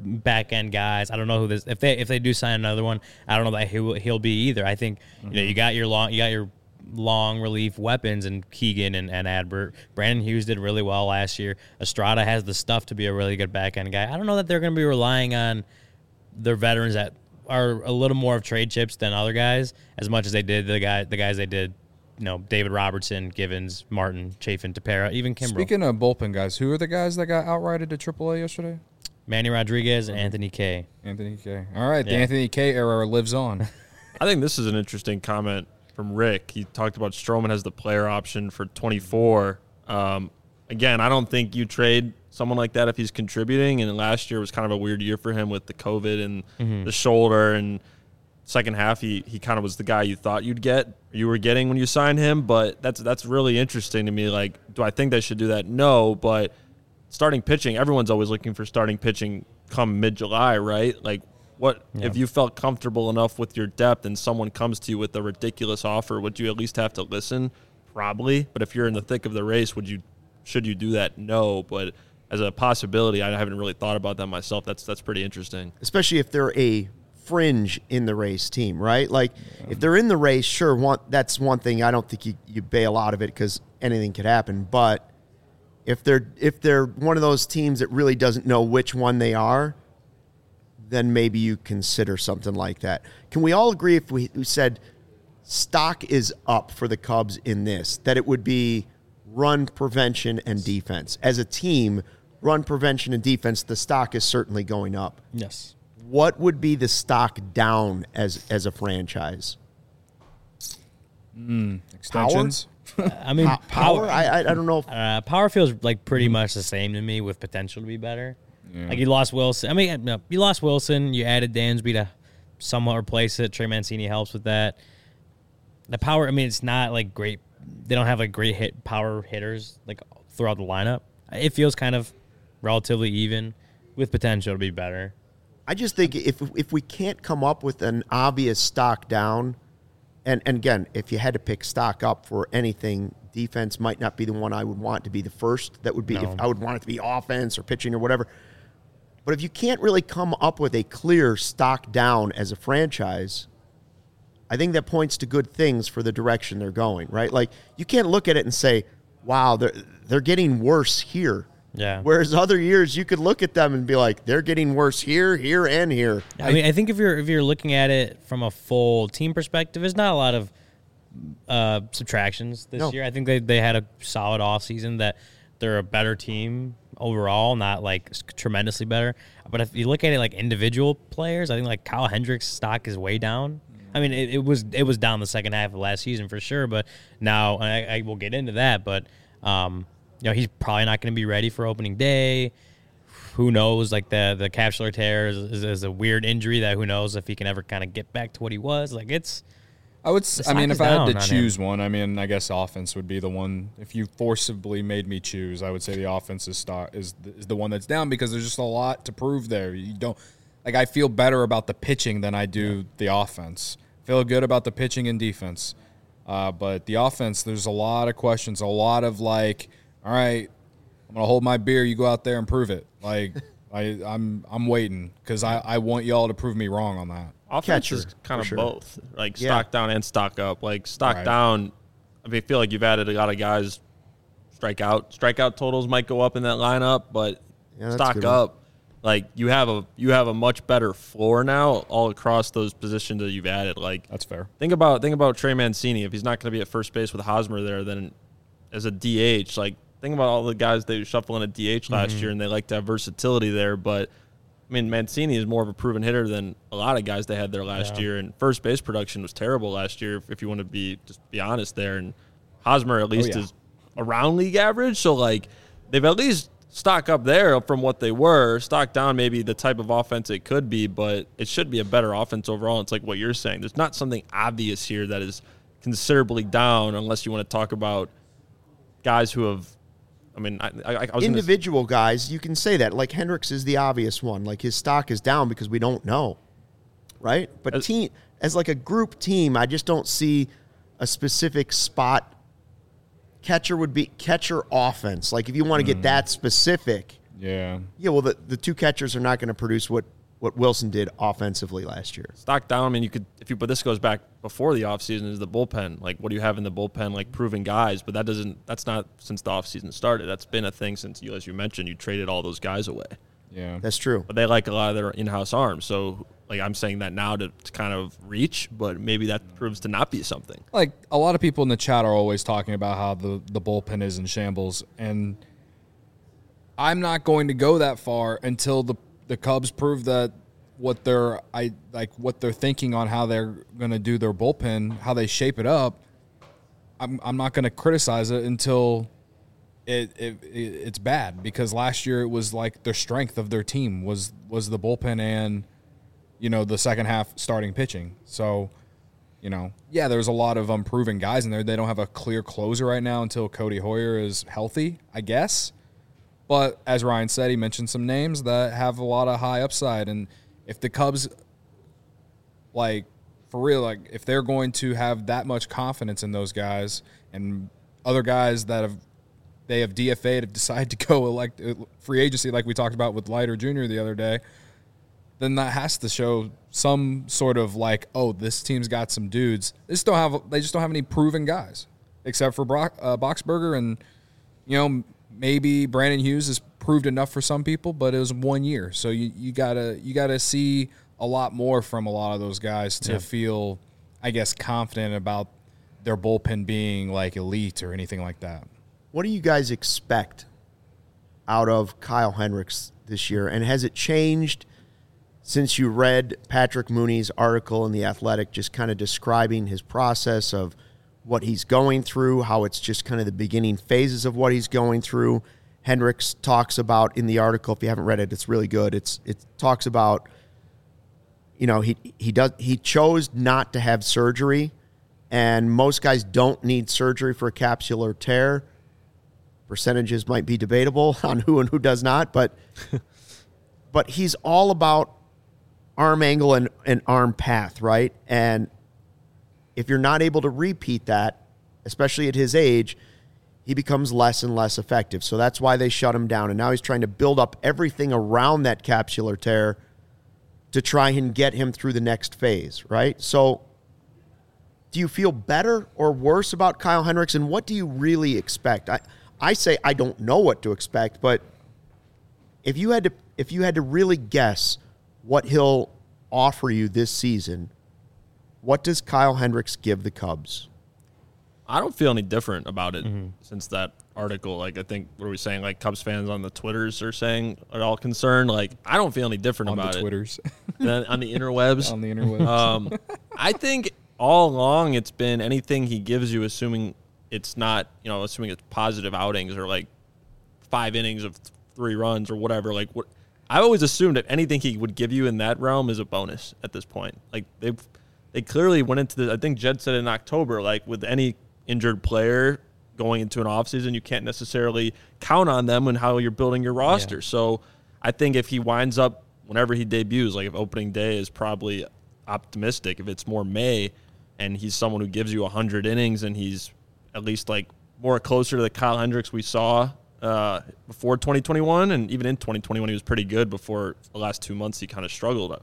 back end guys. I don't know who this. If they do sign another one, I don't know that he'll be either. I think you got your long relief weapons and Keegan and Adbert. Brandon Hughes did really well last year. Estrada has the stuff to be a really good back end guy. I don't know that they're going to be relying on their veterans that are a little more of trade chips than other guys as much as they did the guys they did. David Robertson, Givens, Martin, Chafin, Tepera, even Kimbrel. Speaking of bullpen guys, who are the guys that got outrighted to AAA yesterday? Manny Rodriguez and Anthony Kay. Anthony Kay. All right, the Anthony Kay era lives on. I think this is an interesting comment from Rick. He talked about Stroman has the player option for 24. Again, I don't think you trade someone like that if he's contributing, and last year was kind of a weird year for him with the COVID and the shoulder, and second half he kind of was the guy you thought you were getting when you signed him. But that's really interesting to me. Like, do I think they should do that? No, but starting pitching, everyone's always looking for starting pitching come mid-July, right? Like, if you felt comfortable enough with your depth and someone comes to you with a ridiculous offer, would you at least have to listen? Probably. But if you're in the thick of the race, should you do that? No. But as a possibility, I haven't really thought about that myself. That's pretty interesting. Especially if they're a fringe in the race team, right? Like, if they're in the race, sure, that's one thing. I don't think you bail out of it because anything could happen. But if they're one of those teams that really doesn't know which one they are, then maybe you consider something like that. Can we all agree if we said stock is up for the Cubs in this, that it would be run prevention and defense? As a team, run prevention and defense, the stock is certainly going up. Yes. What would be the stock down as a franchise? Extensions? I mean, power. I don't know. Power feels like pretty much the same to me with potential to be better. Yeah. Like, you lost Wilson. I mean, no, you lost Wilson. You added Dansby to somewhat replace it. Trey Mancini helps with that. The power, I mean, it's not like great. They don't have like great power hitters like throughout the lineup. It feels kind of relatively even with potential to be better. I just think if we can't come up with an obvious stock down, and again, if you had to pick stock up for anything, defense might not be the one I would want to be the first. That would be if I would want it to be offense or pitching or whatever. But if you can't really come up with a clear stock down as a franchise, I think that points to good things for the direction they're going, right? Like, you can't look at it and say, wow, they're getting worse here. Yeah. Whereas other years you could look at them and be like, they're getting worse here, here, and here. I mean, I think if you're looking at it from a full team perspective, there's not a lot of subtractions this year. I think they had a solid offseason, that they're a better team overall, not like tremendously better. But if you look at it like individual players, I think like Kyle Hendricks' stock is way down. I mean, it was down the second half of last season for sure, but now I will get into that. But he's probably not going to be ready for opening day. Who knows? Like the capsular tear is a weird injury that who knows if he can ever kind of get back to what he was. Like, it's. I mean, if I had to choose one, I mean, I guess offense would be the one. If you forcibly made me choose, I would say the offense is the one that's down, because there's just a lot to prove there. You don't, like, I feel better about the pitching than I do the offense. Feel good about the pitching and defense, but the offense, there's a lot of questions, a lot of like, all right, I'm gonna hold my beer. You go out there and prove it. Like, I'm waiting because I want y'all to prove me wrong on that. Offense is kind of both, like stock down and stock up. Like, stock down, I mean, I feel like you've added a lot of guys. Strikeout totals might go up in that lineup, but stock up, like, you have a much better floor now all across those positions that you've added. Like, that's fair. Think about Trey Mancini. If he's not going to be at first base with Hosmer there, then as a DH, like, think about all the guys they shuffle in a DH last year, and they like to have versatility there, but. I mean, Mancini is more of a proven hitter than a lot of guys they had there last year, and first base production was terrible last year, if you want to be honest there. And Hosmer at least is around league average, so like they've at least stock up there from what they were. Stock down maybe the type of offense it could be, but it should be a better offense overall. It's like what you're saying. There's not something obvious here that is considerably down, unless you want to talk about guys who have. I mean, I was individual guys, you can say that. Like, Hendricks is the obvious one. Like, his stock is down because we don't know, right? But as like a group team, I just don't see a specific spot. Catcher would be catcher offense. Like, if you want to get that specific, Yeah. Yeah, well, the two catchers are not going to produce what Wilson did offensively last year. Stock down. I mean, but this goes back before the offseason is the bullpen. Like, what do you have in the bullpen? Like, proven guys, but that's not since the offseason started. That's been a thing since as you mentioned, you traded all those guys away. Yeah. That's true. But they like a lot of their in-house arms. So, like, I'm saying that now to kind of reach, but maybe that proves to not be something. Like, a lot of people in the chat are always talking about how the bullpen is in shambles, and I'm not going to go that far until the Cubs prove that what they're thinking on how they're going to do their bullpen, how they shape it up. I'm not going to criticize it until it's bad, because last year it was like the strength of their team was the bullpen and the second half starting pitching. So there's a lot of unproven guys in there. They don't have a clear closer right now until Cody Hoyer is healthy, I guess. But as Ryan said, he mentioned some names that have a lot of high upside. And if the Cubs, for real, if they're going to have that much confidence in those guys and other guys that they have DFA'd, have decided to go free agency like we talked about with Leiter Jr. the other day, then that has to show some sort of this team's got some dudes. They just don't have any proven guys except for Boxberger and, maybe Brandon Hughes has proved enough for some people, but it was 1 year. So you gotta see a lot more from a lot of those guys to feel, I guess, confident about their bullpen being elite or anything like that. What do you guys expect out of Kyle Hendricks this year? And has it changed since you read Patrick Mooney's article in The Athletic, just kind of describing his process of what he's going through, how it's just kind of the beginning phases of what he's going through? Hendricks talks about in the article, if you haven't read it, it's really good. It talks about, he chose not to have surgery, and most guys don't need surgery for a capsular tear. Percentages might be debatable on who and who does not, but he's all about arm angle and arm path, right? And if you're not able to repeat that, especially at his age, he becomes less and less effective. So that's why they shut him down. And now he's trying to build up everything around that capsular tear to try and get him through the next phase, right? So do you feel better or worse about Kyle Hendricks, and what do you really expect? I say I don't know what to expect, but if you had to really guess what he'll offer you this season, what does Kyle Hendricks give the Cubs? I don't feel any different about it since that article. I think, what are we saying? Cubs fans on the Twitters are saying are all concerned. I don't feel any different about it. On the Twitters. On the interwebs. On the interwebs. I think all along it's been anything he gives you, assuming it's not, assuming it's positive outings or 5 innings of 3 runs or whatever. I always assumed that anything he would give you in that realm is a bonus at this point. They clearly went into I think Jed said in October, with any injured player going into an offseason, you can't necessarily count on them and how you're building your roster. Yeah. So I think if he winds up, whenever he debuts, if opening day is probably optimistic, if it's more May and he's someone who gives you 100 innings and he's at least more closer to the Kyle Hendricks we saw before 2021, and even in 2021 he was pretty good. Before the last 2 months he kind of struggled.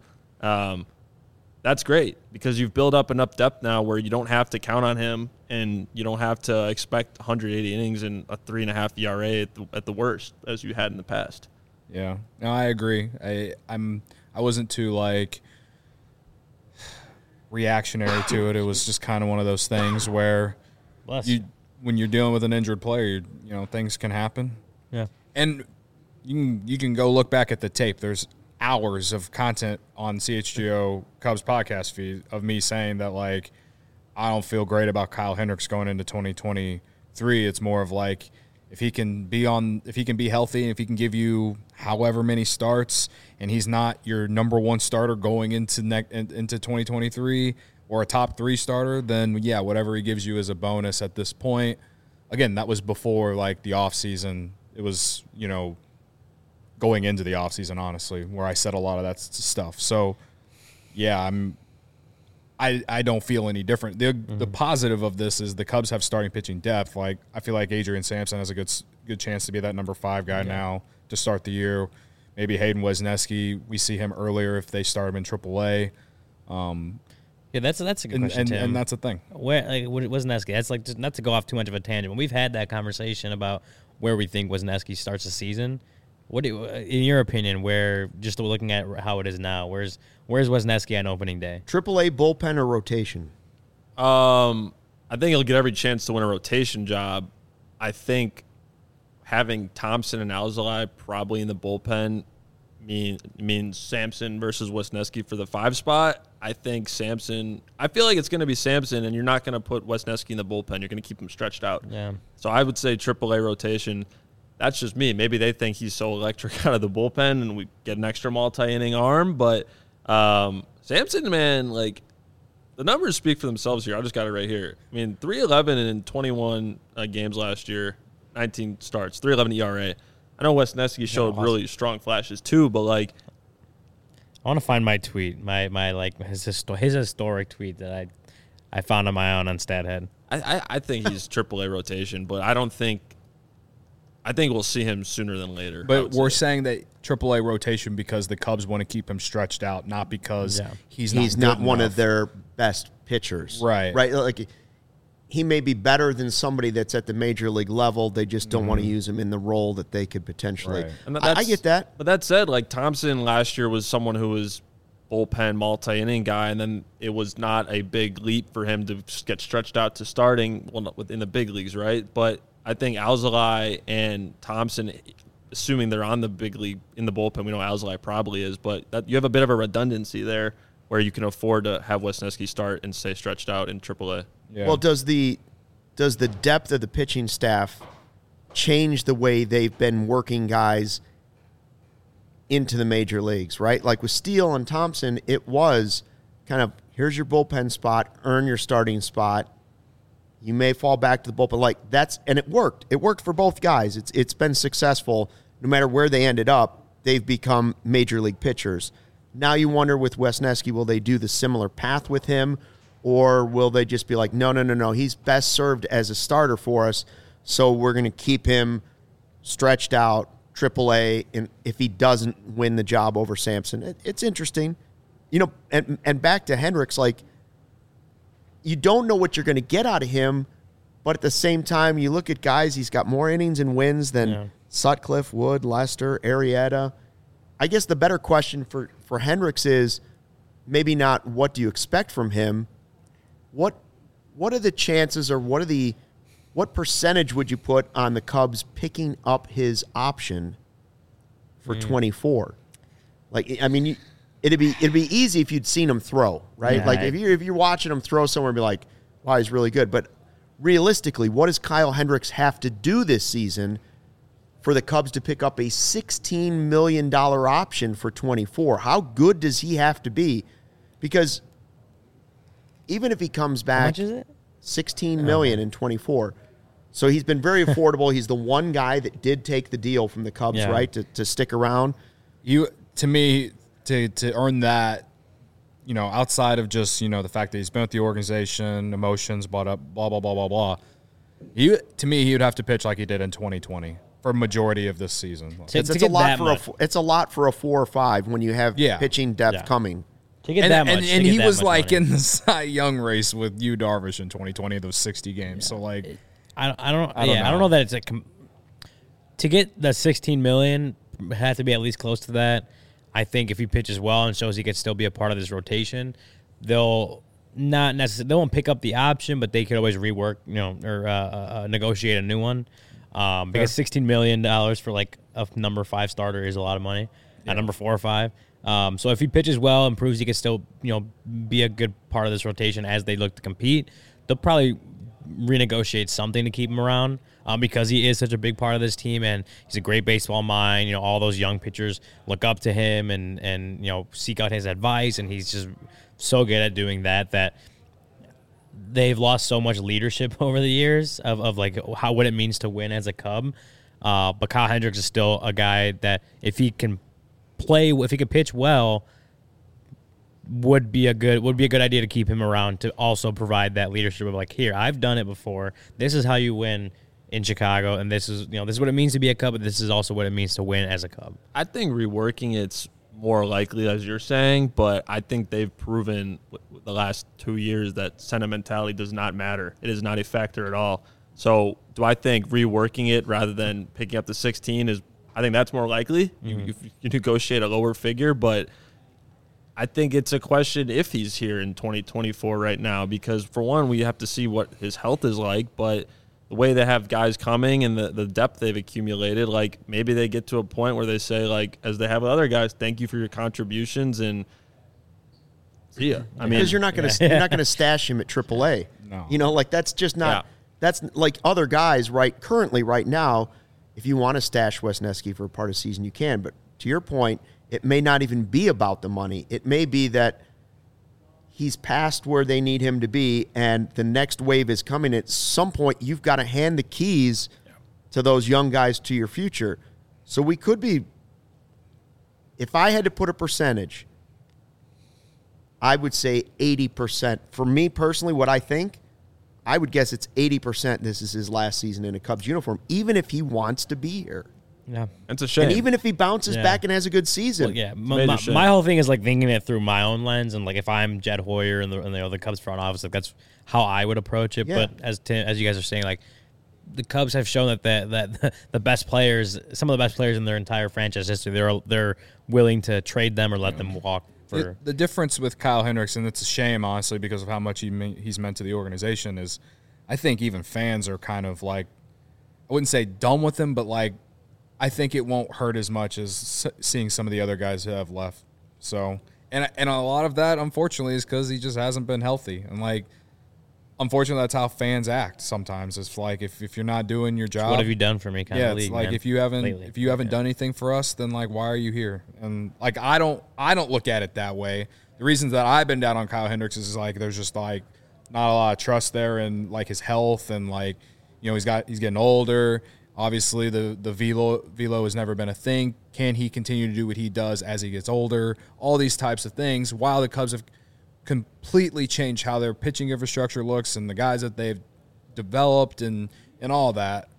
That's great, because you've built up enough depth now where you don't have to count on him, and you don't have to expect 180 innings and a 3.5 ERA at the worst, as you had in the past. Yeah, no, I agree. I wasn't too reactionary to it. It was just kind of one of those things where when you're dealing with an injured player, things can happen. Yeah, and you can go look back at the tape. There's hours of content on CHGO Cubs podcast feed of me saying that I don't feel great about Kyle Hendricks going into 2023. It's more of if he can be healthy, and if he can give you however many starts, and he's not your number 1 starter going into 2023 or a top 3 starter, then whatever he gives you is a bonus at this point. Again, that was before the offseason. It was, going into the offseason, honestly, where I said a lot of that stuff. So, I don't feel any different. The positive of this is the Cubs have starting pitching depth. I feel like Adrian Sampson has a good chance to be that number 5 guy now to start the year. Maybe Hayden Wesneski, we see him earlier if they start him in AAA. Yeah, that's a good question, Tim. And that's a thing. Where Wesneski? That's like, just not to go off too much of a tangent. We've had that conversation about where we think Wesneski starts the season. In your opinion, where, just looking at how it is now, where's Wesneski on opening day? AAA, bullpen, or rotation? I think he'll get every chance to win a rotation job. I think having Thompson and Alzolay probably in the bullpen means Sampson versus Wesneski for the 5 spot. I think Sampson – I feel like it's going to be Sampson, and you're not going to put Wesneski in the bullpen. You're going to keep him stretched out. Yeah. So I would say AAA rotation. That's just me. Maybe they think he's so electric out of the bullpen and we get an extra multi-inning arm. But Sampson, man, like the numbers speak for themselves here. I just got it right here. I mean, 3.11 in 21 games last year, 19 starts, 3.11 ERA. I know Wesneski showed really strong flashes too, but like I want to find my tweet, my like his historic tweet that I found on my own on StatHead. I think he's AAA rotation, but I think we'll see him sooner than later. But we're saying that AAA rotation because the Cubs want to keep him stretched out, not because he's not one of their best pitchers. Right. Right. Like he may be better than somebody that's at the major league level. They just don't want to use him in the role that they could potentially. Right. And I get that. But that said, like Thompson last year was someone who was bullpen multi-inning guy, and then it was not a big leap for him to get stretched out to starting within the big leagues, right? But I think Alzolay and Thompson, assuming they're on the big league in the bullpen, we know Alzolay probably is, but you have a bit of a redundancy there where you can afford to have Wesneski start and stay stretched out in AAA. Yeah. Well, does the depth of the pitching staff change the way they've been working guys into the major leagues, right? Like with Steele and Thompson, it was kind of, here's your bullpen spot, earn your starting spot. You may fall back to the bullpen. And it worked. It worked for both guys. It's been successful. No matter where they ended up, they've become major league pitchers. Now you wonder with Wesneski, will they do the similar path with him, or will they just be like, no, he's best served as a starter for us, so we're going to keep him stretched out, AAA, and if he doesn't win the job over Sampson. It's interesting. And back to Hendricks, like, you don't know what you're going to get out of him, but at the same time, you look at guys, he's got more innings and wins than Sutcliffe, Wood, Lester, Arrieta. I guess the better question for Hendricks is maybe not what do you expect from him, what are the chances, or what percentage would you put on the Cubs picking up his option for 24? Like, I mean, It'd be easy if you'd seen him throw, right? Yeah, like if you're watching him throw somewhere and be like, wow, he's really good. But realistically, what does Kyle Hendricks have to do this season for the Cubs to pick up a $16 million option for 24? How good does he have to be? Because even if he comes back, how much is it? $16 million in 24. So he's been very affordable. He's the one guy that did take the deal from the Cubs, right, to stick around. To earn that, outside of just, the fact that he's been with the organization, emotions, blah, blah, blah, blah, blah, blah. He would have to pitch like he did in 2020 for a majority of this season. It's a lot for a 4 or 5 when you have pitching depth coming. To get that much. And he was like in the Cy Young race with Yu Darvish in 2020, those 60 games. So like, I don't know that it's to get the $16 million have to be at least close to that. I think if he pitches well and shows he can still be a part of this rotation, they'll not necessarily, they won't pick up the option, but they could always rework, or negotiate a new one. Because $16 million for like a number 5 starter is a lot of money. At number 4 or 5. So if he pitches well and proves he can still, be a good part of this rotation as they look to compete, they'll probably renegotiate something to keep him around. Because he is such a big part of this team, and he's a great baseball mind. All those young pitchers look up to him and seek out his advice, and he's just so good at doing that they've lost so much leadership over the years of like what it means to win as a Cub. But Kyle Hendricks is still a guy that if he can pitch well, would be a good idea to keep him around to also provide that leadership of like, here, I've done it before. This is how you win. in Chicago, and this is what it means to be a Cub, but this is also what it means to win as a Cub. I think reworking it's more likely, as you're saying, but I think they've proven the last 2 years that sentimentality does not matter. It is not a factor at all. So do I think reworking it rather than picking up the 16 is, I think that's more likely. You negotiate a lower figure, but I think it's a question if he's here in 2024 right now, because for one, we have to see what his health is like, but the way they have guys coming and the depth they've accumulated, like maybe they get to a point where they say, like, as they have with other guys, thank you for your contributions and see ya. I mean, because you're not going to stash him at AAA. No. Like that's just not. Yeah. That's like other guys currently right now. If you want to stash Wesneski for a part of the season, you can. But to your point, it may not even be about the money. It may be that he's past where they need him to be, and the next wave is coming. At some point, you've got to hand the keys to those young guys to your future. So we could be, if I had to put a percentage, I would say 80%. For me personally, what I think, I would guess it's 80% this is his last season in a Cubs uniform, even if he wants to be here. Yeah, it's a shame. And even if he bounces back and has a good season. Well, my whole thing is like thinking it through my own lens, and like if I'm Jed Hoyer and the Cubs front office, like that's how I would approach it. Yeah. But as you guys are saying, like the Cubs have shown that the best players, some of the best players in their entire franchise history, they're willing to trade them or let them walk. The difference with Kyle Hendricks, and it's a shame, honestly, because of how much he's meant to the organization, is I think even fans are kind of like, I wouldn't say done with him, but like I think it won't hurt as much as seeing some of the other guys who have left. So, and a lot of that, unfortunately, is because he just hasn't been healthy. And like, unfortunately, that's how fans act sometimes. It's like if you're not doing your job, what have you done for me? It's like if you haven't done anything for us, then like why are you here? And like I don't look at it that way. The reasons that I've been down on Kyle Hendricks is like there's just like not a lot of trust there in like his health, and like he's getting older. Obviously, the velo has never been a thing. Can he continue to do what he does as he gets older? All these types of things. While the Cubs have completely changed how their pitching infrastructure looks and the guys that they've developed and all that,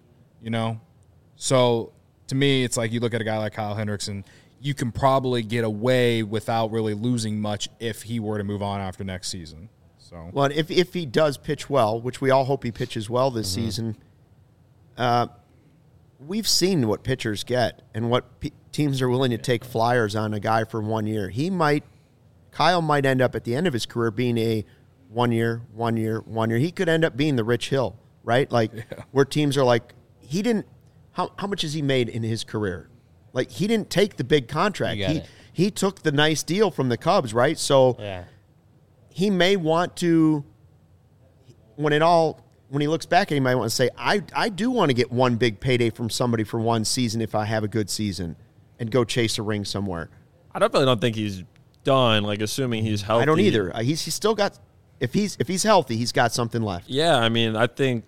So to me, it's like you look at a guy like Kyle Hendricks and you can probably get away without really losing much if he were to move on after next season. So, well, if he does pitch well, which we all hope he pitches well this season, we've seen what pitchers get and what teams are willing to take flyers on a guy for 1 year. Kyle might end up at the end of his career being a 1 year. He could end up being the Rich Hill, right? Like where teams are like, he didn't. How much has he made in his career? Like he didn't take the big contract. He took the nice deal from the Cubs, right? So he may want to, when he looks back, he might want to say, I do want to get one big payday from somebody for one season if I have a good season and go chase a ring somewhere. I definitely don't think he's done, like assuming he's healthy. I don't either. He's still got, if he's healthy, he's got something left. Yeah, I mean, I think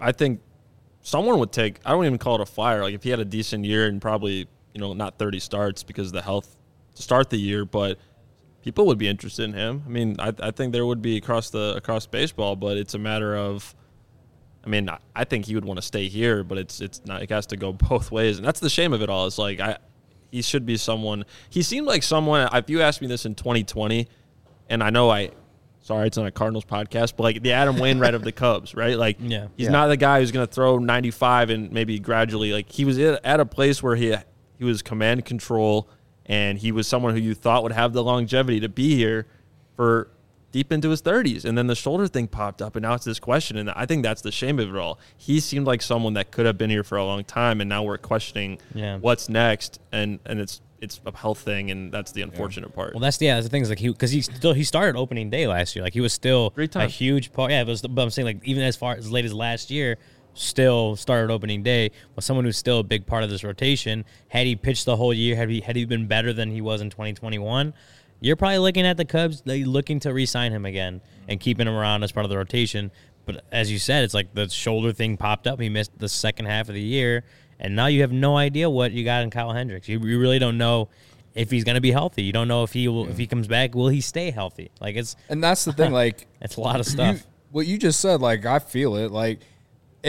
someone would take, I don't even call it a flyer. Like if he had a decent year and probably, not 30 starts because of the health to start the year, but people would be interested in him. I mean, I think there would be across baseball, but it's a matter of, I mean, I think he would want to stay here, but it's not. It has to go both ways, and that's the shame of it all. It's like he should be someone. He seemed like someone. If you asked me this in 2020, and I know sorry, it's not a Cardinals podcast, but like the Adam Wainwright of the Cubs, right? Like, he's not the guy who's going to throw 95 and maybe gradually. Like he was at a place where he was command control, and he was someone who you thought would have the longevity to be here for deep into his 30s, and then the shoulder thing popped up, and now it's this question, and I think that's the shame of it all. He seemed like someone that could have been here for a long time, and now we're questioning what's next, and it's a health thing, and that's the unfortunate part. Well, that's the thing is like he started opening day last year, like he was still a huge part. Yeah, but I'm saying like even as far as late as last year, still started opening day was someone who's still a big part of this rotation. Had he pitched the whole year, had he been better than he was in 2021. You're probably looking at the Cubs looking to re-sign him again and keeping him around as part of the rotation. But as you said, it's like the shoulder thing popped up. He missed the second half of the year, and now you have no idea what you got in Kyle Hendricks. You really don't know if he's going to be healthy. You don't know if he comes back, will he stay healthy? Like and that's the thing. Like it's a lot of stuff. What you just said, like I feel it. Like if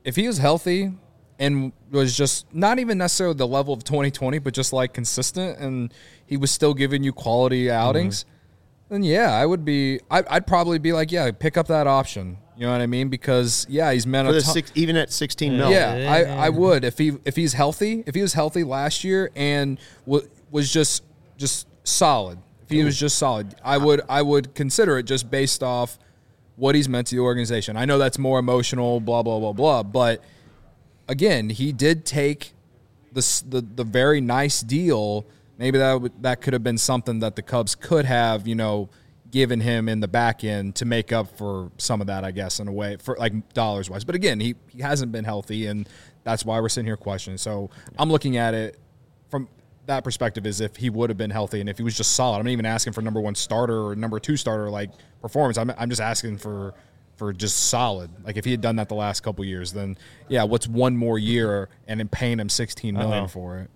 if he was healthy and was just not even necessarily the level of 2020, but just like consistent, and he was still giving you quality outings, then yeah, I'd probably be like, yeah, pick up that option. You know what I mean? Because he's meant even at 16 mil. Yeah, I would if he's healthy. If he was healthy last year and was just solid. If he was just solid, I would consider it just based off what he's meant to the organization. I know that's more emotional, blah blah blah blah, but again, he did take the very nice deal. Maybe that could have been something that the Cubs could have, given him in the back end to make up for some of that, I guess, in a way, for like dollars wise. But again, he hasn't been healthy, and that's why we're sitting here questioning. So I'm looking at it from that perspective, as if he would have been healthy and if he was just solid. I'm not even asking for number 1 starter or number 2 starter like performance. I'm just asking for just solid. Like if he had done that the last couple years, then what's one more year and in paying him $16 million for it?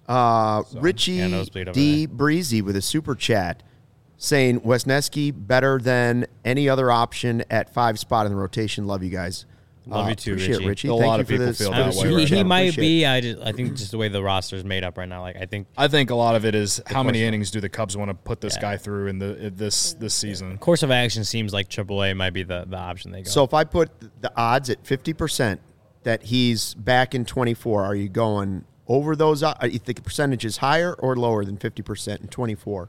Richie D. Breezy with a super chat saying Wesneski better than any other option at 5 spot in the rotation. Love you guys. Love you too, Richie. A lot of people feel that way. He might be. I think just the way the roster is made up right now. Like I think a lot of it is how many innings do the Cubs want to put this guy through in this season. Course of action seems like AAA might be the option they go. So if I put the odds at 50% that he's back in 24, are you going over those? You think the percentage is higher or lower than 50% in 24?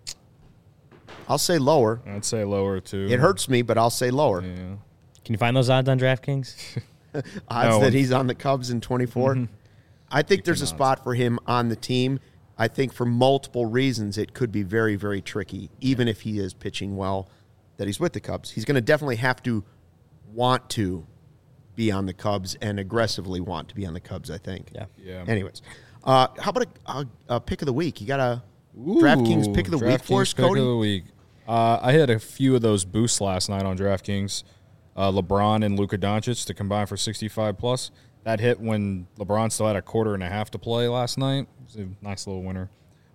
I'll say lower. I'd say lower too. It hurts me, but I'll say lower. Yeah. Can you find those odds on DraftKings? That he's on the Cubs in 24? Mm-hmm. I think there's a spot for him on the team. I think for multiple reasons it could be very, very tricky, even if he is pitching well, that he's with the Cubs. He's going to definitely have to want to be on the Cubs and aggressively want to be on the Cubs, I think. Yeah. Anyways, how about a pick of the week? You got a DraftKings pick of the week for us, Cody? Pick of the week. I had a few of those boosts last night on DraftKings. LeBron and Luka Doncic to combine for 65+. That hit when LeBron still had a quarter and a half to play last night. It was a nice little winner.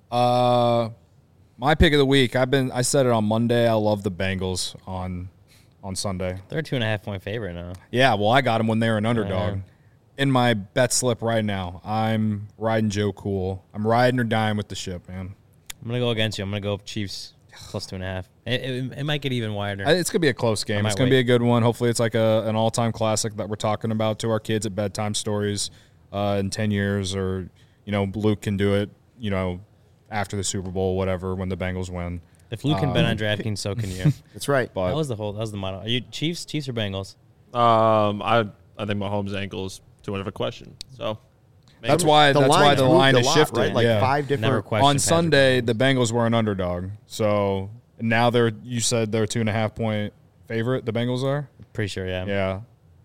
My pick of the week, I said it on Monday. I love the Bengals on Sunday. They're a 2.5-point favorite now. Yeah, well, I got them when they were an underdog. In my bet slip right now, I'm riding Joe Cool. I'm riding or dying with the ship, man. I'm going to go against you. I'm going to go Chiefs plus 2.5. It might get even wider. It's going to be a close game. It's going to be a good one. Hopefully it's like an all-time classic that we're talking about to our kids at bedtime stories in 10 years. Or, Luke can do it, after the Super Bowl, whatever, when the Bengals win. If Luke can bet on DraftKings, so can you. That's right. But that was the motto. Are you Chiefs or Bengals? I think Mahomes' ankle is too much of a question. So that's why the line is shifted. Right? Like 5 different. On Sunday, the Bengals were an underdog. So now you said they're a 2.5-point favorite. The Bengals are. Pretty sure, yeah. Yeah,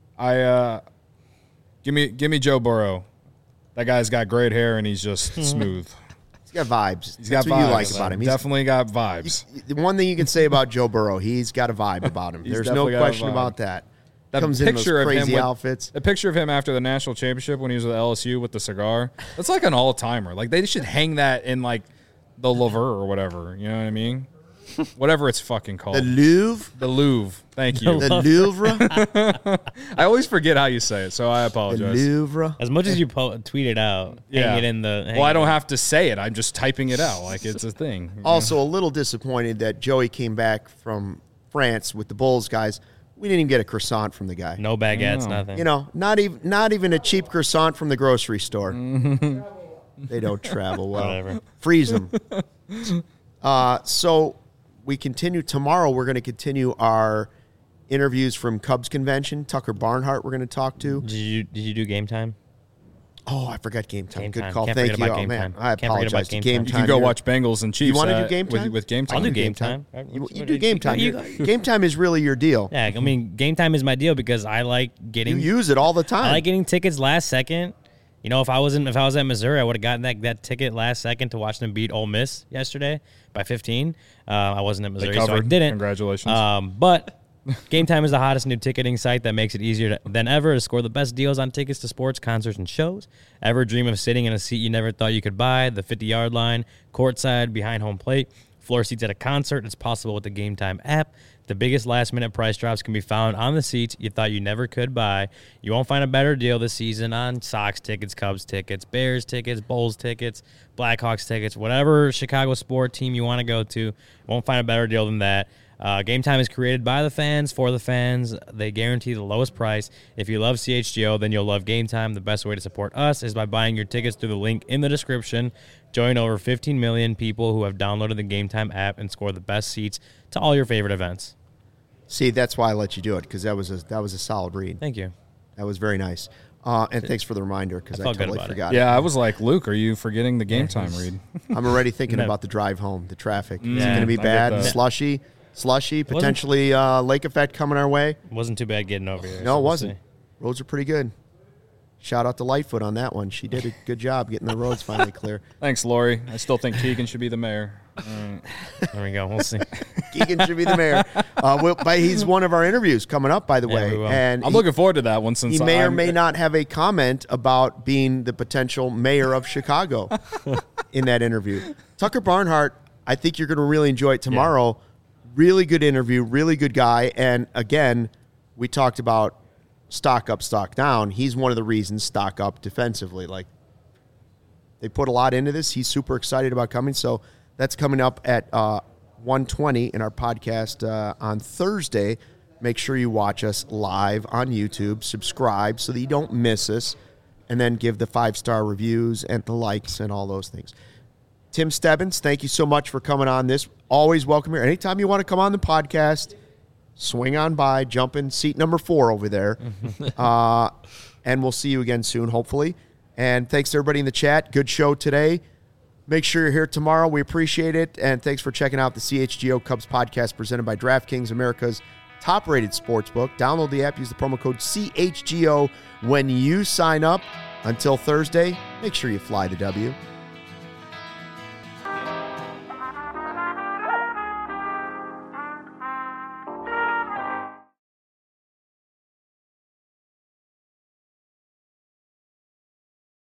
give me Joe Burrow. That guy's got great hair and he's just smooth. He's got vibes. That's what you like about him. He's definitely got vibes. The one thing you can say about Joe Burrow, he's got a vibe about him. There's no question about that. That comes picture in those crazy of him outfits. The picture of him after the national championship when he was with LSU with the cigar. That's like an all-timer. Like they should hang that in like the Louvre or whatever. You know what I mean? Whatever it's fucking called. The Louvre? The Louvre. Thank you. The Louvre? I always forget how you say it, so I apologize. The Louvre? As much as you tweet it out, hang it in the... Well, I don't have to say it. I'm just typing it out like it's a thing. Also, a little disappointed that Joey came back from France with the Bulls guys. We didn't even get a croissant from the guy. No baguettes, nothing. Not even a cheap croissant from the grocery store. They don't travel well. Whatever. Freeze them. So we continue tomorrow. We're going to continue our interviews from Cubs convention. Tucker Barnhart we're going to talk to. Did you do Game Time? Oh, I forgot Game Time. Game Good Time. call. Can't Thank you. Oh, man. I apologize. Game Time. You can go watch Bengals and Chiefs. You want to do Game Time? With Game Time? I'll do Game Time. You do Game Time. Game Time is really your deal. Yeah, I mean, Game Time is my deal because I like getting... You use it all the time. I like getting tickets last second. If I was at Missouri, I would have gotten that ticket last second to watch them beat Ole Miss yesterday by 15. I wasn't at Missouri, so I didn't. Congratulations. But Game Time is the hottest new ticketing site that makes it easier than ever to score the best deals on tickets to sports, concerts, and shows. Ever dream of sitting in a seat you never thought you could buy? The 50-yard line, courtside, behind home plate. floor seats at a concert. It's possible with the Game Time app. The biggest last-minute price drops can be found on the seats you thought you never could buy. You won't find a better deal this season on Sox tickets, Cubs tickets, Bears tickets, Bulls tickets, Blackhawks tickets, whatever Chicago sport team you want to go to. You won't find a better deal than that. Game Time is created by the fans, for the fans. They guarantee the lowest price. If you love CHGO, then you'll love Game Time. The best way to support us is by buying your tickets through the link in the description. Join over 15 million people who have downloaded the Game Time app and score the best seats to all your favorite events. See, that's why I let you do it, because that was a solid read. Thank you. That was very nice. And thanks for the reminder, because I totally forgot. Yeah, I was like, Luke, are you forgetting the Game Time read? I'm already thinking about the drive home, the traffic. Is it going to be bad? Slushy, potentially lake effect coming our way. Wasn't too bad getting over here. No, it wasn't. Roads are pretty good. Shout out to Lightfoot on that one. She did a good job getting the roads finally clear. Thanks, Lori. I still think Keegan should be the mayor. There we go. We'll see. Keegan should be the mayor. He's one of our interviews coming up, by the way. And I'm looking forward to that one. Since he may or may not have a comment about being the potential mayor of Chicago in that interview. Tucker Barnhart, I think you're going to really enjoy it tomorrow. Yeah. Really good interview, really good guy. And again, we talked about stock up, stock down. He's one of the reasons stock up defensively. Like, they put a lot into this. He's super excited about coming. So that's coming up at 1:20 in our podcast on Thursday. Make sure you watch us live on YouTube. Subscribe so that you don't miss us. And then give the 5-star reviews and the likes and all those things. Tim Stebbins, thank you so much for coming on this. Always welcome here. Anytime you want to come on the podcast, swing on by, jump in seat number 4 over there. And we'll see you again soon, hopefully. And thanks to everybody in the chat. Good show today. Make sure you're here tomorrow. We appreciate it. And thanks for checking out the CHGO Cubs podcast presented by DraftKings, America's top-rated sportsbook. Download the app. Use the promo code CHGO when you sign up. Until Thursday, make sure you fly the W.